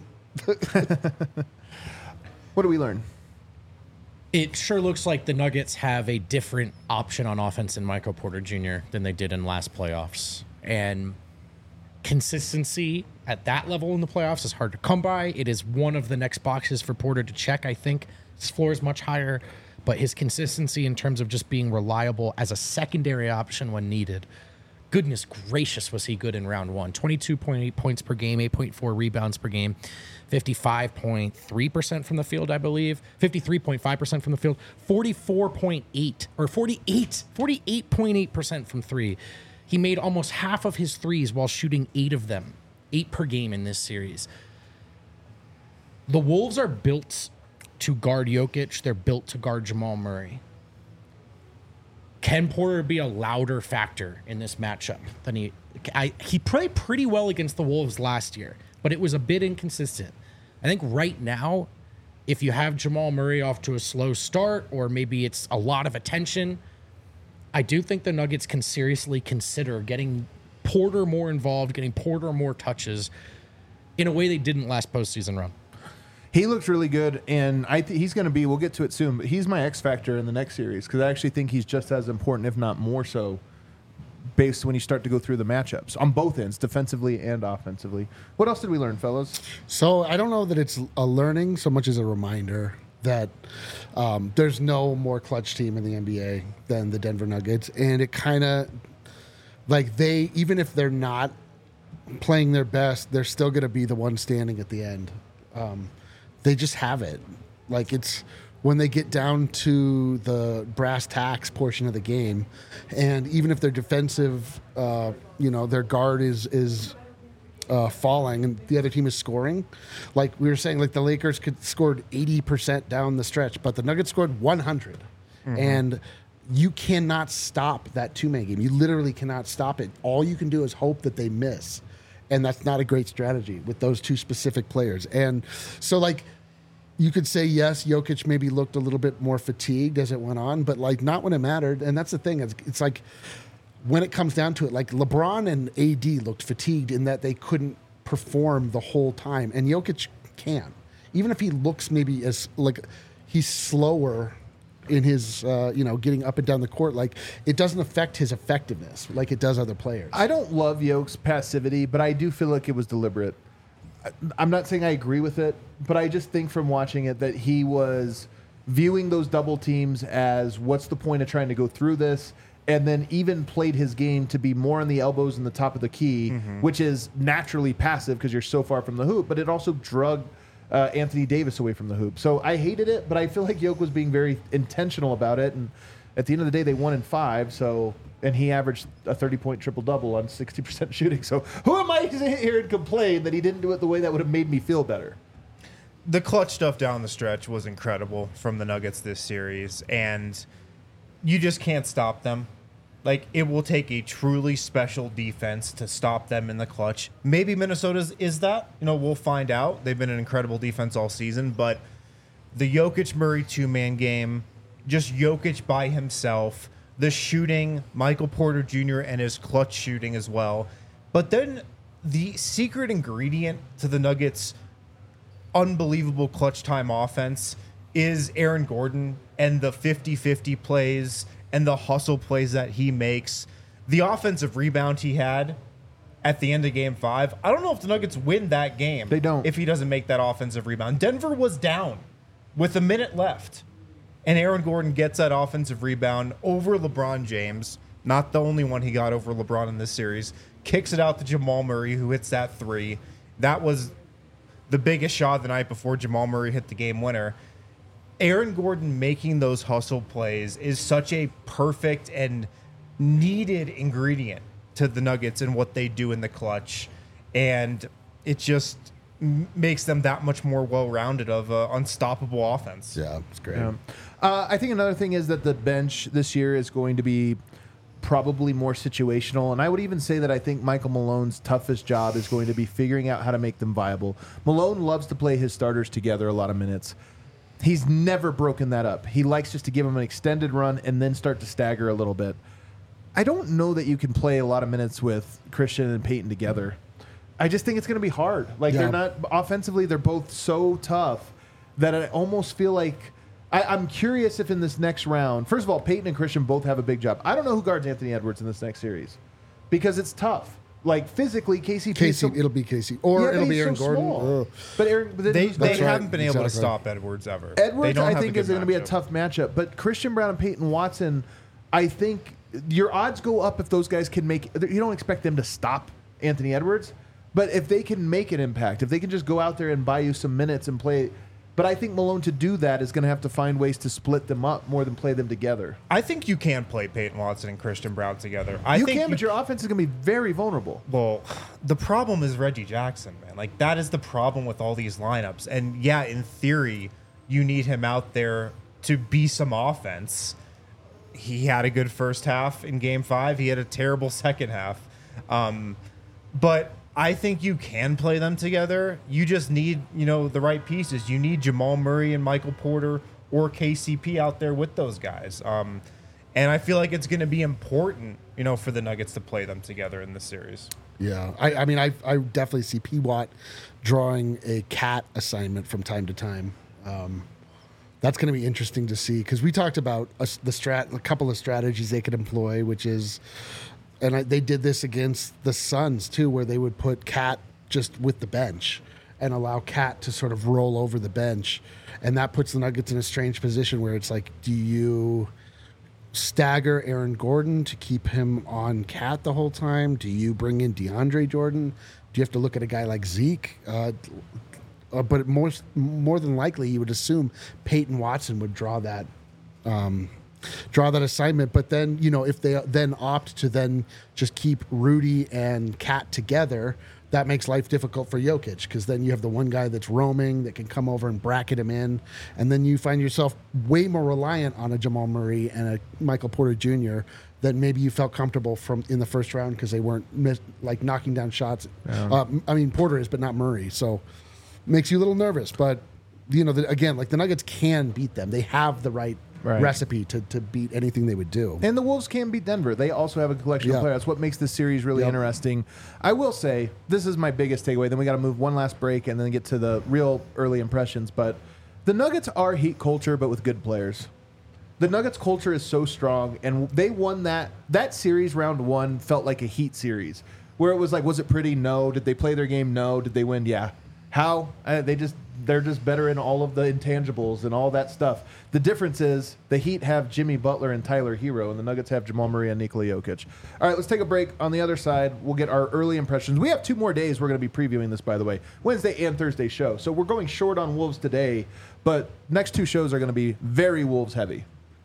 What do we learn? It sure looks like the Nuggets have a different option on offense in Michael Porter Junior than they did in last playoffs. And consistency at that level in the playoffs is hard to come by. It is one of the next boxes for Porter to check, I think. His floor is much higher, but his consistency in terms of just being reliable as a secondary option when needed. Goodness gracious, was he good in round one. twenty-two point eight points per game, eight point four rebounds per game, fifty-five point three percent from the field, I believe, fifty-three point five percent from the field, forty-four point eight or forty-eight, forty-eight point eight percent from three. He made almost half of his threes while shooting eight of them, eight per game in this series. The Wolves are built to guard Jokic. They're built to guard Jamal Murray. Can Porter be a louder factor in this matchup than he? I, he played pretty well against the Wolves last year, but it was a bit inconsistent. I think right now, if you have Jamal Murray off to a slow start, or maybe it's a lot of attention, I do think the Nuggets can seriously consider getting Porter more involved, getting Porter more touches in a way they didn't last postseason run. He looks really good, and I th- he's going to be, we'll get to it soon, but he's my X factor in the next series because I actually think he's just as important, if not more so, based when you start to go through the matchups on both ends, defensively and offensively. What else did we learn, fellas? So I don't know that it's a learning so much as a reminder that um, there's no more clutch team in the N B A than the Denver Nuggets. And it kind of, like they, even if they're not playing their best, they're still going to be the one standing at the end. Um, they just have it. Like it's when they get down to the brass tacks portion of the game, and even if their defensive, uh, you know, their guard is is uh, falling and the other team is scoring, like we were saying, like the Lakers could scored eighty percent down the stretch, but the Nuggets scored one hundred, mm-hmm. and you cannot stop that two-man game. You literally cannot stop it. All you can do is hope that they miss. And that's not a great strategy with those two specific players. And so, like, you could say, yes, Jokic maybe looked a little bit more fatigued as it went on, but, like, not when it mattered. And that's the thing. It's, it's like when it comes down to it, like, LeBron and A D looked fatigued in that they couldn't perform the whole time. And Jokic can. Even if he looks maybe as, like, he's slower in his, uh, you know, getting up and down the court, like it doesn't affect his effectiveness like it does other players. I don't love Yoke's passivity, but I do feel like it was deliberate. I- I'm not saying I agree with it, but I just think from watching it that he was viewing those double teams as what's the point of trying to go through this, and then even played his game to be more on the elbows and the top of the key, mm-hmm. which is naturally passive because you're so far from the hoop, but it also drug Uh, Anthony Davis away from the hoop. So I hated it, but I feel like Yoke was being very intentional about it. And at the end of the day, they won in five. So, and he averaged a thirty-point triple-double on sixty percent shooting. So who am I to sit here and complain that he didn't do it the way that would have made me feel better? The clutch stuff down the stretch was incredible from the Nuggets this series, and you just can't stop them. Like, it will take a truly special defense to stop them in the clutch. Maybe Minnesota's is that. You know, we'll find out. They've been an incredible defense all season, but the Jokic-Murray two-man game, just Jokic by himself, the shooting, Michael Porter Junior and his clutch shooting as well. But then the secret ingredient to the Nuggets' unbelievable clutch time offense is Aaron Gordon and the fifty-fifty plays and the hustle plays that he makes. The offensive rebound he had at the end of game five, I don't know if the Nuggets win that game. They don't. If he doesn't make that offensive rebound. Denver was down with a minute left, and Aaron Gordon gets that offensive rebound over LeBron James, not the only one he got over LeBron in this series, kicks it out to Jamal Murray, who hits that three. That was the biggest shot of the night before Jamal Murray hit the game winner. Aaron Gordon making those hustle plays is such a perfect and needed ingredient to the Nuggets and what they do in the clutch. And it just m- makes them that much more well-rounded of an unstoppable offense. Yeah, it's great. Yeah. Uh, I think another thing is that the bench this year is going to be probably more situational. And I would even say that I think Michael Malone's toughest job is going to be figuring out how to make them viable. Malone loves to play his starters together a lot of minutes. He's never broken that up. He likes just to give them an extended run and then start to stagger a little bit. I don't know that you can play a lot of minutes with Christian and Peyton together. I just think it's going to be hard. Like Yeah. they're not offensively, they're both so tough that I almost feel like I, I'm curious if in this next round, first of all, Peyton and Christian both have a big job. I don't know who guards Anthony Edwards in this next series because it's tough. Like physically, K C P. Casey, is so, it'll be Casey, or Yeah, but it'll be he's Aaron so Gordon. small. Ugh. But Aaron, but then They, he's- they That's right, haven't been able to exactly. stop Edwards ever. They Edwards, don't I have a think, good is going to be a matchup. tough matchup. But Christian Brown and Peyton Watson, I think your odds go up if those guys can make. You don't expect them to stop Anthony Edwards, but if they can make an impact, if they can just go out there and buy you some minutes and play. But I think Malone, to do that, is going to have to find ways to split them up more than play them together. I think you can play Peyton Watson and Christian Brown together. I you think can, but your offense is going to be very vulnerable. Well, the problem is Reggie Jackson, man. Like, that is the problem with all these lineups. And yeah, in theory, you need him out there to be some offense. He had a good first half in game five. He had a terrible second half. Um, but I think you can play them together. You just need, you know, the right pieces. You need Jamal Murray and Michael Porter or K C P out there with those guys. Um, And I feel like it's going to be important, you know, for the Nuggets to play them together in this series. Yeah, I, I mean, I, I definitely see P. Watt drawing a cat assignment from time to time. Um, that's going to be interesting to see because we talked about a, the strat, a couple of strategies they could employ, which is, and I, they did this against the Suns too, where they would put Cat just with the bench and allow Cat to sort of roll over the bench, and that puts the Nuggets in a strange position where it's like, do you stagger Aaron Gordon to keep him on Cat the whole time? Do you bring in DeAndre Jordan? Do you have to look at a guy like Zeke? Uh, uh, but more, more than likely, you would assume Peyton Watson would draw that um, draw that assignment. But then, you know, if they then opt to then just keep Rudy and Cat together, that makes life difficult for Jokic because then you have the one guy that's roaming that can come over and bracket him in. And then you find yourself way more reliant on a Jamal Murray and a Michael Porter Junior than maybe you felt comfortable from in the first round because they weren't miss, like knocking down shots. Yeah. Uh, I mean, Porter is, but not Murray. So makes you a little nervous. But, you know, the, again, like the Nuggets can beat them. They have the right, Right. recipe to, to beat anything they would do. And the Wolves can beat Denver. They also have a collection Yeah. of players. That's what makes this series really Yep. interesting. I will say, this is my biggest takeaway. Then we got to move one last break and then get to the real early impressions. But the Nuggets are Heat culture, but with good players. The Nuggets culture is so strong, and they won that. That series, round one, felt like a Heat series, where it was like, was it pretty? No. Did they play their game? No. Did they win? Yeah. How? Uh, they just they're just better in all of the intangibles and all that stuff. The difference is the Heat have Jimmy Butler and Tyler Hero, and the Nuggets have Jamal Murray and Nikola Jokic. All right, let's take a break. On the other side, we'll get our early impressions. We have two more days. We're going to be previewing this, by the way, Wednesday and Thursday show. So we're going short on Wolves today, but next two shows are going to be very Wolves heavy.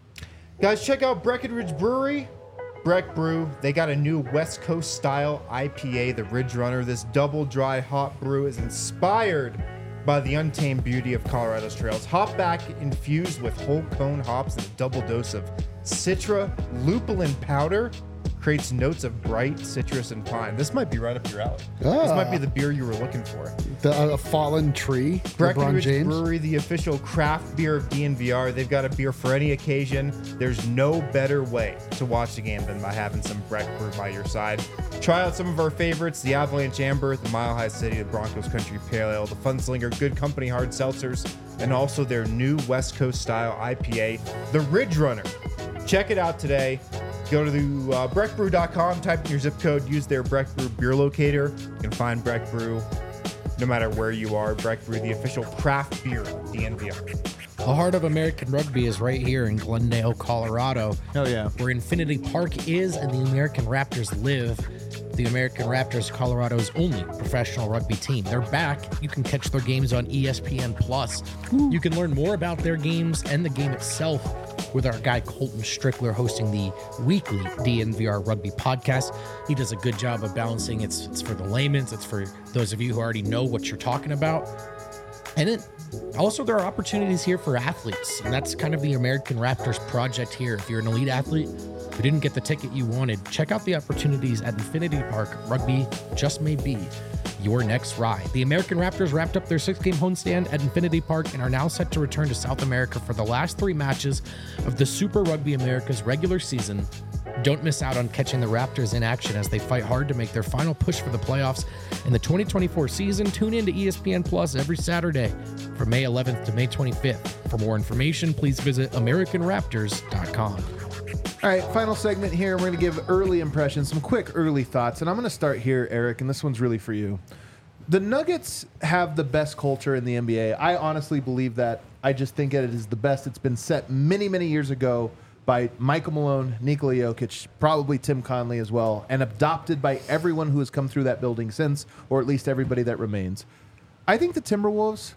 Guys, check out Breckenridge Brewery. Breck Brew, they got a new West Coast style I P A, the Ridge Runner. This double dry hop brew is inspired by the untamed beauty of Colorado's trails. Hop back infused with whole cone hops and a double dose of Citra lupulin powder creates notes of bright citrus and pine. This might be right up your alley. This Ah. might be the beer you were looking for. The uh, fallen tree, LeBron Breckenridge James. Brewery, the official craft beer of D N V R. They've got a beer for any occasion. There's no better way to watch the game than by having some Breck Brew by your side. Try out some of our favorites, the Avalanche Amber, the Mile High City, the Broncos Country Pale Ale, the Funslinger, Good Company Hard Seltzers, and also their new West Coast style I P A, the Ridge Runner. Check it out today. Go to the uh, breck brew dot com, type in your zip code, use their Breck Brew beer locator. You can find Breck Brew no matter where you are. Breck Brew, the official craft beer of D N V R. The heart of American rugby is right here in Glendale, Colorado. Hell yeah. Where Infinity Park is and the American Raptors live. The American Raptors, Colorado's only professional rugby team. They're back. You can catch their games on E S P N Plus. You can learn more about their games and the game itself with our guy Colton Strickler hosting the weekly D N V R Rugby podcast. He does a good job of balancing. It's it's for the laymen. It's for those of you who already know what you're talking about. And it also, there are opportunities here for athletes, and that's kind of the American Raptors project here. If you're an elite athlete who didn't get the ticket you wanted, check out the opportunities at Infinity Park. Rugby just may be your next ride. The American Raptors wrapped up their six-game homestand at Infinity Park and are now set to return to South America for the last three matches of the Super Rugby America's regular season. Don't miss out on catching the Raptors in action as they fight hard to make their final push for the playoffs in the twenty twenty-four season. Tune in to E S P N Plus every Saturday from May eleventh to May twenty-fifth. For more information, please visit american raptors dot com. All right, final segment here. We're going to give early impressions, some quick early thoughts. And I'm going to start here, Eric, and this one's really for you. The Nuggets have the best culture in the N B A. I honestly believe that. I just think that it is the best. It's been set many, many years ago by Michael Malone, Nikola Jokic, probably Tim Conley as well, and adopted by everyone who has come through that building since, or at least everybody that remains. I think the Timberwolves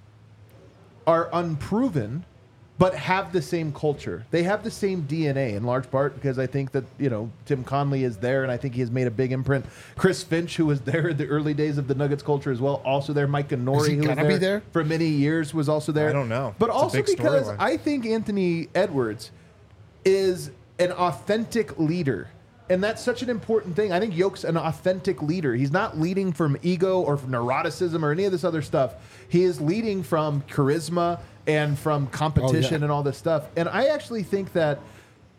are unproven, but have the same culture. They have the same D N A in large part because I think that, you know, Tim Conley is there, and I think he has made a big imprint. Chris Finch, who was there in the early days of the Nuggets culture as well, also there. Mike Ganori, Is he who was gonna there, be there? for many years, was also there. I don't know. But It's a also big because storyline. I think Anthony Edwards is an authentic leader. And that's such an important thing. I think Yoke's an authentic leader. He's not leading from ego or from neuroticism or any of this other stuff. He is leading from charisma and from competition Oh, yeah. and all this stuff. And I actually think that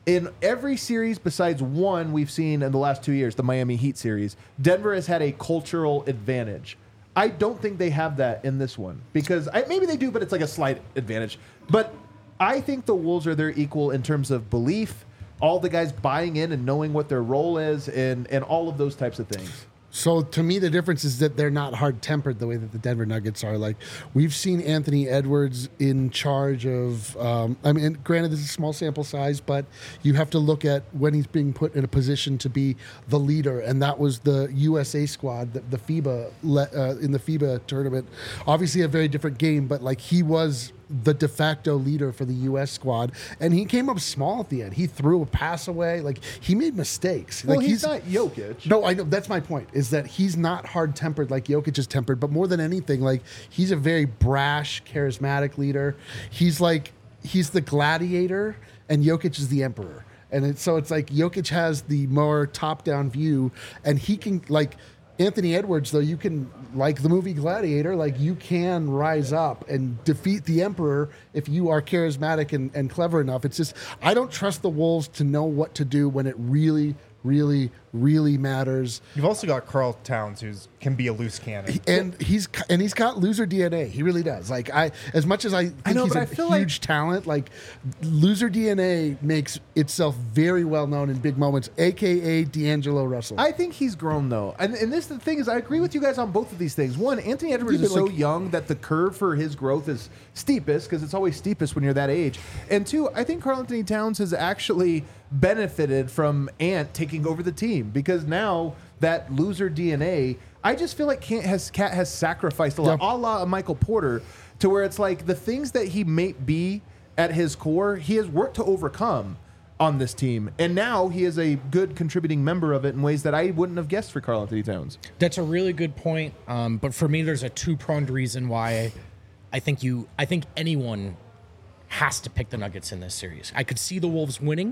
In every series besides one we've seen in the last two years, the Miami Heat series, Denver has had a cultural advantage. I don't think they have that in this one because I, maybe they do, but it's like a slight advantage. But I think the Wolves are their equal in terms of belief, all the guys buying in and knowing what their role is, and, and all of those types of things. So to me, the difference is that they're not hard-tempered the way that the Denver Nuggets are. Like we've seen Anthony Edwards in charge of. Um, I mean, granted, this is a small sample size, but you have to look at when he's being put in a position to be the leader, and that was the U S A squad, the, the FIBA le- uh, in the FIBA tournament. Obviously, a very different game, but like he was the de facto leader for the U S squad, and he came up small at the end. He threw a pass away, like he made mistakes. Well, like he's, he's not Jokic. No, I know that's my point. Is that he's not hard tempered like Jokic is tempered, but more than anything, like he's a very brash, charismatic leader. He's like he's the gladiator, and Jokic is the emperor. And it's, so it's like Jokic has the more top down view, and he can like. Anthony Edwards, though, you can, like the movie Gladiator, like you can rise up and defeat the Emperor if you are charismatic and, and clever enough. It's just, I don't trust the Wolves to know what to do when it really, really, really matters. You've also got Karl Towns, who can be a loose cannon. And he's and he's got loser D N A. He really does. Like I, as much as I think I know, he's but a I feel huge talent, like loser D N A makes itself very well known in big moments. A K A D'Angelo Russell. I think he's grown though, and and this the thing is, I agree with you guys on both of these things. One, Anthony Edwards Yeah, is but, so like- young that the curve for his growth is steepest because it's always steepest when you're that age. And two, I think Karl Anthony Towns has actually benefited from Ant taking over the team because now that loser D N A, I just feel like Cat has Cat has sacrificed a lot, Yep. a la a Michael Porter, to where it's like the things that he may be at his core, he has worked to overcome on this team, and now he is a good contributing member of it in ways that I wouldn't have guessed for Karl Anthony Towns. That's a really good point. Um, but for me, there's a two-pronged reason why I think you, I think anyone has to pick the Nuggets in this series. I could see the Wolves winning,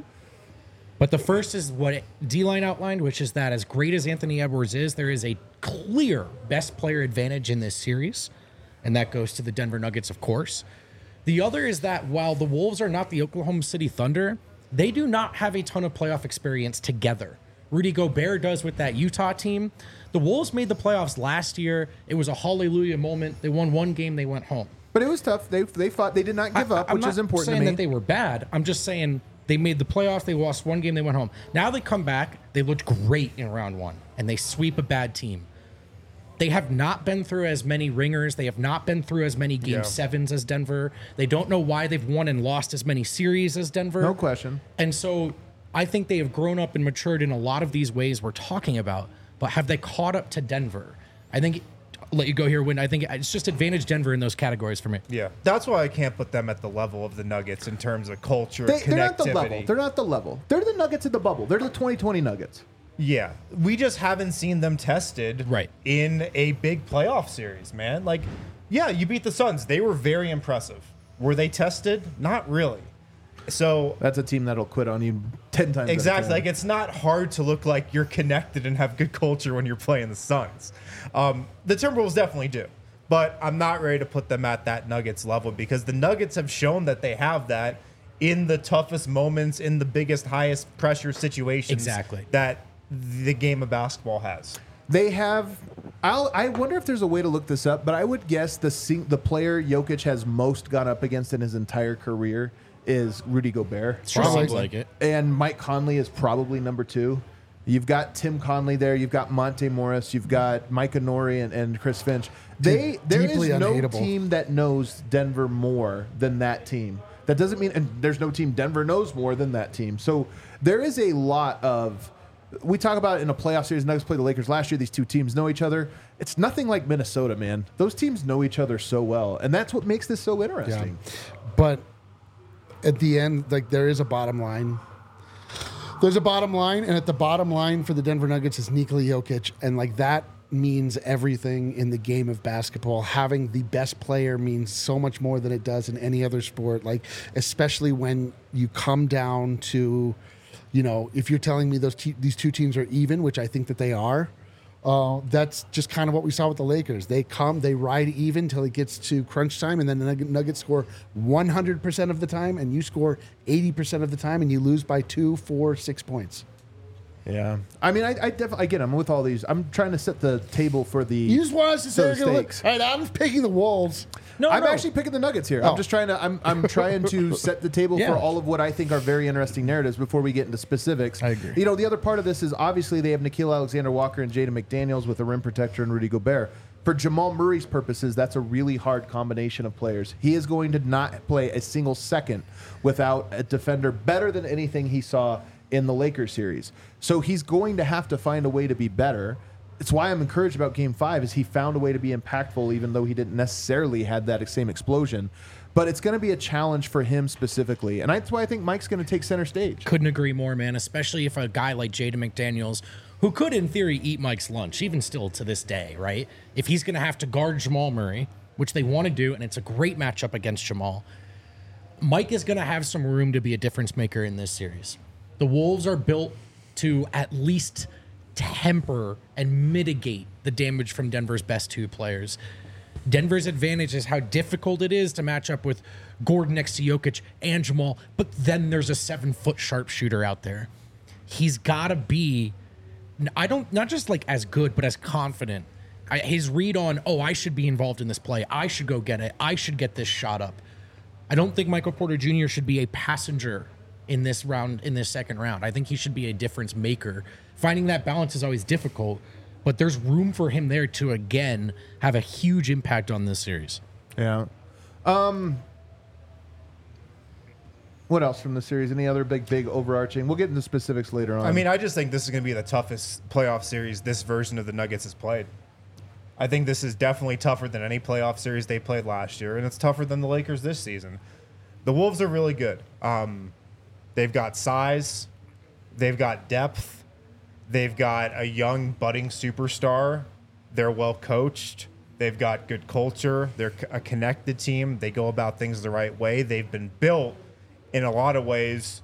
but the first is what D-Line outlined, which is that as great as Anthony Edwards is, there is a clear best player advantage in this series, and that goes to the Denver Nuggets, of course. The other is that while the Wolves are not the Oklahoma City Thunder, they do not have a ton of playoff experience together. Rudy Gobert does with that Utah team. The Wolves made the playoffs last year. It was a hallelujah moment. They won one game, they went home. But it was tough. They they fought. They did not give I- up, I'm which not is important saying to me. that they were bad. I'm just saying they made the playoffs. They lost one game. They went home. Now they come back. They looked great in round one, and they sweep a bad team. They have not been through as many ringers. They have not been through as many game Yeah. sevens as Denver. They don't know why they've won and lost as many series as Denver. No question. And so I think they have grown up and matured in a lot of these ways we're talking about. But have they caught up to Denver? I think. I'll let you go here, Win. I think it's just advantage Denver in those categories for me. Yeah, that's why I can't put them at the level of the Nuggets in terms of culture, They, they're not the connectivity. level. They're not the level. They're the Nuggets in the bubble. They're the twenty twenty Nuggets. Yeah, we just haven't seen them tested Right. in a big playoff series, man. Like, yeah, you beat the Suns. They were very impressive. Were they tested? Not really. So That's a team that'll quit on you ten times. out of exactly, ten. like it's not hard to look like you're connected and have good culture when you're playing the Suns. Um, the Timberwolves definitely do, but I'm not ready to put them at that Nuggets level because the Nuggets have shown that they have that in the toughest moments, in the biggest, highest pressure situations. Exactly. That the game of basketball has. They have. I'll, I wonder if there's a way to look this up, but I would guess the sing, the player Jokic has most gone up against in his entire career is Rudy Gobert. Sure Probably. seems like it. And Mike Conley is probably number two. You've got Tim Conley there. You've got Monte Morris. You've got Micah Nori and, and Chris Finch. They there is Deeply no unhateable. team that knows Denver more than that team. That doesn't mean, and there's no team Denver knows more than that team. So there is a lot of. We talk about it in a playoff series. Nuggets played the Lakers last year. These two teams know each other. It's nothing like Minnesota, man. Those teams know each other so well, and that's what makes this so Yeah. interesting. But at the end, like there is a bottom line. There's a bottom line, and at the bottom line for the Denver Nuggets is Nikola Jokic, and like that means everything in the game of basketball. Having the best player means so much more than it does in any other sport. Like especially when you come down to, you know, if you're telling me those te- these two teams are even, which I think that they are. Uh, that's just kind of what we saw with the Lakers. They come, they ride even till it gets to crunch time, and then the Nugget- Nuggets score one hundred percent of the time, and you score eighty percent of the time, and you lose by two, four, six points. Yeah, I mean, I, I definitely, again, I'm with all these. I'm trying to set the table for the. You just want us to say, those they're gonna look, stakes. all right, I'm picking the Wolves. No, I'm no. actually picking the Nuggets here. Oh. I'm just trying to. I'm I'm trying to set the table Yeah. for all of what I think are very interesting narratives before we get into specifics. I agree. You know, the other part of this is obviously they have Nickeil Alexander-Walker and Jaden McDaniels with a rim protector and Rudy Gobert. For Jamal Murray's purposes, that's a really hard combination of players. He is going to not play a single second without a defender better than anything he saw in the Lakers series. So he's going to have to find a way to be better. It's why I'm encouraged about Game Five. Is he found a way to be impactful, even though he didn't necessarily had that same explosion. But it's going to be a challenge for him specifically, and that's why I think Mike's going to take center stage. Couldn't agree more, man. Especially if a guy like Jaden McDaniels, who could in theory eat Mike's lunch, even still to this day, right? If he's going to have to guard Jamal Murray, which they want to do, and it's a great matchup against Jamal, Mike is going to have some room to be a difference maker in this series. The Wolves are built to at least temper and mitigate the damage from Denver's best two players. Denver's advantage is how difficult it is to match up with Gordon next to Jokic and Jamal, but then there's a seven-foot sharpshooter out there. He's got to be, I don't, not just like as good, but as confident. I, his read on, oh, I should be involved in this play. I should go get it. I should get this shot up. I don't think Michael Porter Junior should be a passenger in this round, in this second round. I think he should be a difference maker. Finding that balance is always difficult, but there's room for him there to, again, have a huge impact on this series. Yeah. Um. What else from the series? Any other big, big overarching? We'll get into specifics later on. I mean, I just think this is going to be the toughest playoff series this version of the Nuggets has played. I think this is definitely tougher than any playoff series they played last year, and it's tougher than the Lakers this season. The Wolves are really good. Um, they've got size. They've got depth. They've got a young, budding superstar. They're well coached. They've got good culture. They're a connected team. They go about things the right way. They've been built in a lot of ways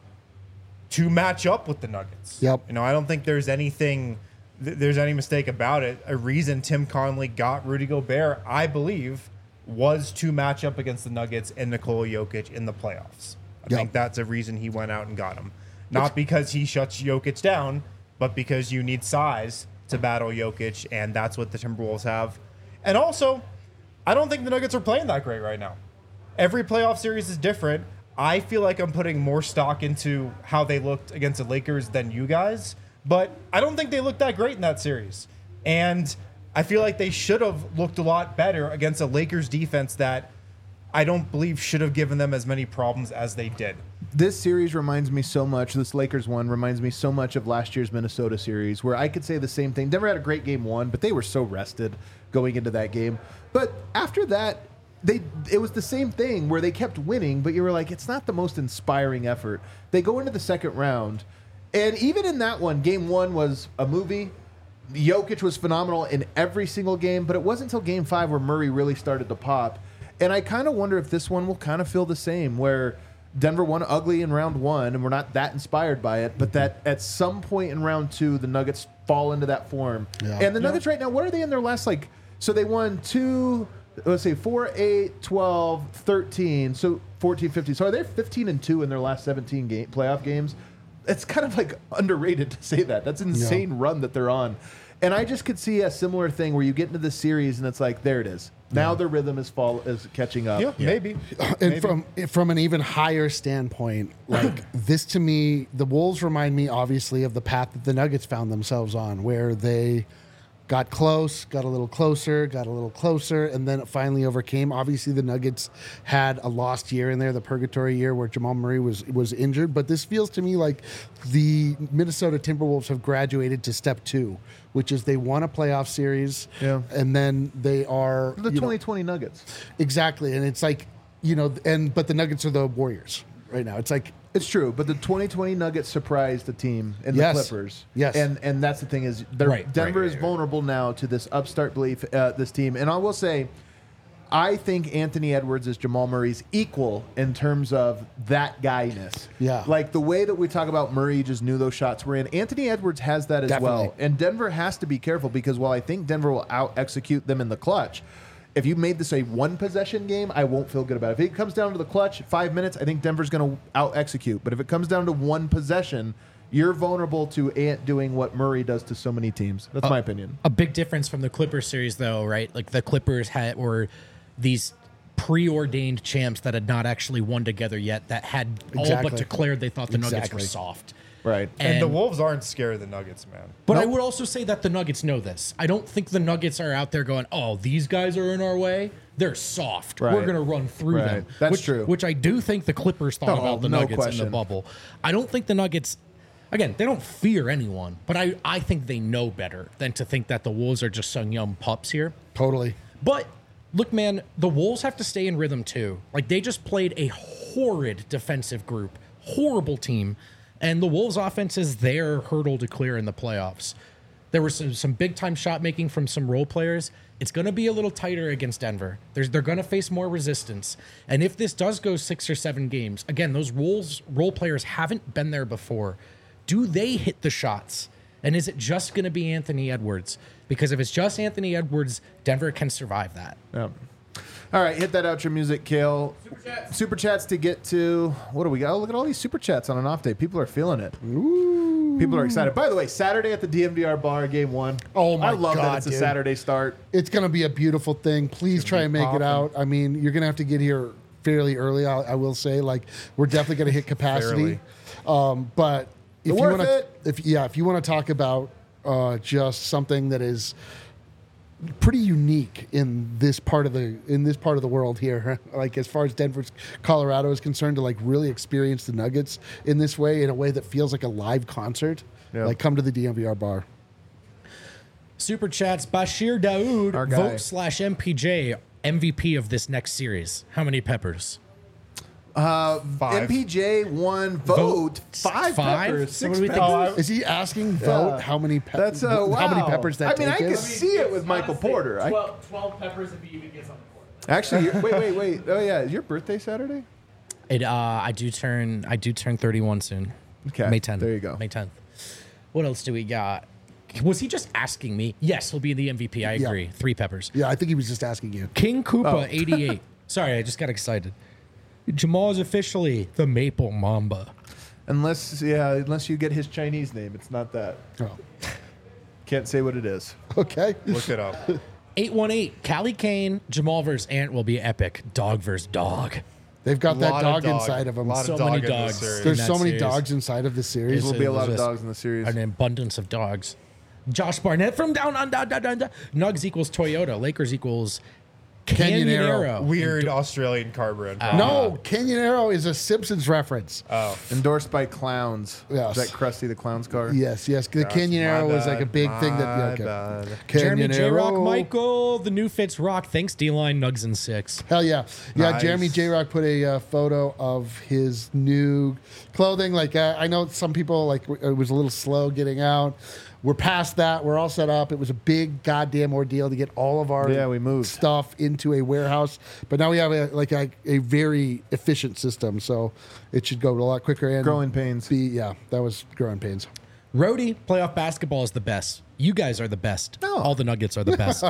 to match up with the Nuggets. Yep. You know, I don't think there's anything, th- there's any mistake about it. A reason Tim Connelly got Rudy Gobert, I believe, was to match up against the Nuggets and Nikola Jokic in the playoffs. I Yep. think that's a reason he went out and got him. Not because he shuts Jokic down, but because you need size to battle Jokic, and that's what the Timberwolves have. And also, I don't think the Nuggets are playing that great right now. Every playoff series is different. I feel like I'm putting more stock into how they looked against the Lakers than you guys, but I don't think they looked that great in that series. And I feel like they should have looked a lot better against a Lakers defense that I don't believe should have given them as many problems as they did. this series reminds me so much, this Lakers one reminds me so much of last year's Minnesota series, where I could say the same thing. Denver had a great game one, but they were so rested going into that game. But after that, they it was the same thing where they kept winning, but you were like, it's not the most inspiring effort. They go into the second round, and even in that one, game one was a movie. Jokic was phenomenal in every single game, but it wasn't until game five where Murray really started to pop. And I kind of wonder if this one will kind of feel the same, where Denver won ugly in round one, and we're not that inspired by it, but that at some point in round two, the Nuggets fall into that form. Yeah. And the Nuggets right now, what are they in their last, like, so they won two, let's say four, eight, twelve, thirteen, so fourteen, fifteen. So are they fifteen and two in their last seventeen game, playoff games? It's kind of like underrated to say that. That's an insane run that they're on. And I just could see a similar thing where you get into the series and it's like, there it is. Now their rhythm is fall is catching up. Yeah, maybe. And from from an even higher standpoint, like this to me, the Wolves remind me obviously of the path that the Nuggets found themselves on, where they got close, got a little closer, got a little closer, and then it finally overcame. Obviously, the Nuggets had a lost year in there, the purgatory year where Jamal Murray was was injured. But this feels to me like the Minnesota Timberwolves have graduated to step two, which is they won a playoff series, Yeah. and then they are The you know, twenty twenty Nuggets. exactly, and it's like you know, and but the Nuggets are the Warriors right now. It's like It's true, but the twenty twenty Nuggets surprised the team and Yes. the Clippers. Yes. and and that's the thing is, they're- Right, Denver right, is right, right. vulnerable now to this upstart belief, uh, this team. And I will say, I think Anthony Edwards is Jamal Murray's equal in terms of that guyness. Yeah. Like the way that we talk about Murray just knew those shots were in. Anthony Edwards has that as Definitely. well. And Denver has to be careful because while I think Denver will out execute them in the clutch, if you made this a one possession game, I won't feel good about it. If it comes down to the clutch, five minutes, I think Denver's going to out execute. But if it comes down to one possession, you're vulnerable to Ant doing what Murray does to so many teams. That's my opinion. A big difference from the Clippers series, though, right? Like the Clippers had were these preordained champs that had not actually won together yet, that had all Exactly. but declared they thought the Nuggets were Exactly. soft. Right. And, And- the Wolves aren't scared of the Nuggets, man. But I would also say that the Nuggets know this. I don't think the Nuggets are out there going, "Oh, these guys are in our way. They're soft. Right. We're going to run through Right. them." That's which, true. Which I do think the Clippers thought No, about the no Nuggets in question. the bubble. I don't think the Nuggets. Again, they don't fear anyone, but I, I think they know better than to think that the Wolves are just some young pups here. Totally. But look, man, the Wolves have to stay in rhythm too. Like they just played a horrid defensive group, horrible team, and the Wolves' offense is their hurdle to clear in the playoffs. There was some, some big time shot making from some role players. It's going to be a little tighter against Denver. There's, they're going to face more resistance. And if this does go six or seven games, again, those Wolves role players haven't been there before. Do they hit the shots? And is it just going to be Anthony Edwards? Because if it's just Anthony Edwards, Denver can survive that. Yeah. All right, hit that outro music, Kale. Super chats. Super chats to get to. What do we got? Oh, look at all these super chats on an off day. People are feeling it. Ooh. People are excited. By the way, Saturday at the D M V R bar, game one. Oh, my I love that God, it's a dude. Saturday start. It's going to be a beautiful thing. Please try and make popping. it out. I mean, you're going to have to get here fairly early, I, I will say. Like, we're definitely going to hit capacity. Um, but if you Worth want to, it. if yeah, if you want to talk about uh, just something that is pretty unique in this part of the in this part of the world here, like as far as Denver, Colorado is concerned, to like really experience the Nuggets in this way, in a way that feels like a live concert. Yeah. Like, come to the D M V R bar. Super chats. Bashir Daoud, Our guy. vote slash M P J, M V P of this next series. How many peppers? Five. M P J won vote, Vote five, five? peppers. So what Six do we think? peppers. Is he asking vote Yeah. how many pe- That's uh, wow. how many peppers that I mean, I take could is? see it with Michael Honestly, Porter. I, twelve, twelve peppers if he even gets on the court. actually, you're- wait, wait, wait. Oh yeah, is your birthday Saturday? It. Uh, I do turn. I do turn thirty-one soon. Okay, May tenth. there you go. May tenth. What else do we got? Was he just asking me? Yes, he'll be the M V P. I Yeah. agree. Three peppers. Yeah, I think he was just asking you. King Koopa, Oh. eighty-eight. Sorry, I just got excited. Jamal is officially the Maple Mamba. Unless, yeah, unless you get his Chinese name, it's not that. Oh, Can't say what it is. okay. Look it up. eight one eight. Callie Kane, Jamal versus Ant will be epic. Dog versus dog. They've got that Lot dog, of dog. inside of them. Lot So of dog many in this dogs. series. There's in so that many series. dogs inside of this series. There will be a lot of There's dogs in the series. An abundance of dogs. Josh Barnett from down under. under, under. Nugs equals Toyota. Lakers equals Canyon Canyon Arrow. Arrow. Weird Australian car brand. No, Canyon Arrow is a Simpsons reference. Oh. Endorsed by clowns. Yes. Is that Krusty the Clown's car? yes, yes. The Gosh, Canyon my Arrow was bad, like a big thing that. Yeah, my okay. bad. Jeremy Canyon J Rock, Arrow. Michael, the new Fitz Rock. Thanks, D Line, Nugs and six. Hell yeah, yeah. Nice. Jeremy J Rock put a uh, photo of his new clothing. Like uh, I know some people like w- it was a little slow getting out. We're past that. We're all set up. It was a big goddamn ordeal to get all of our Yeah, we moved. stuff into a warehouse. But now we have a like a, a very efficient system, so it should go a lot quicker. And Growing pains. Be, yeah, that was growing pains. Rhodey, playoff basketball is the best. You guys are the best. No. All the Nuggets are the best.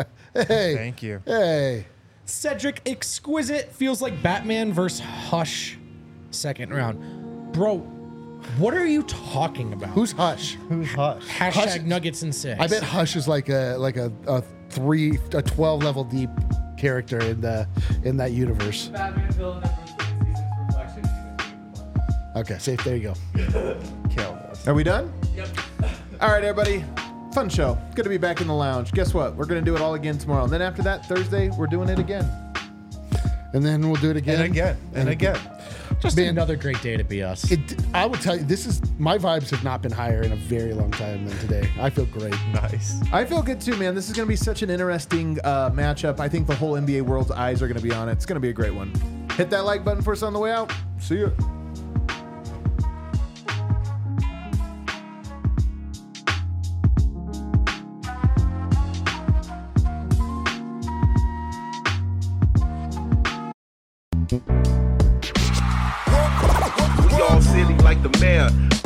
Hey, Thank you. hey. Cedric Exquisite feels like Batman versus Hush. Second round. Bro, what are you talking about? Who's Hush? Who's Hush? Hashtag Hush- Nuggets and six. I bet Hush is like a like a, a three a twelve level deep character in the in that universe. Batman villain that Bruce Wayne sees his reflection. Okay, safe. There you go. Kill this. Are we done? Yep. All right, everybody. Fun show. Good to be back in the lounge. Guess what? We're going to do it all again tomorrow. And then after that, Thursday, we're doing it again. And then we'll do it again And again. And again. Just Man. another great day to be us. It, I will tell you, this is my vibes have not been higher in a very long time than today. I feel great. Nice. I feel good too, man. This is going to be such an interesting uh, matchup. I think the whole N B A world's eyes are going to be on it. It's going to be a great one. Hit that like button for us on the way out. See ya. like the mayor.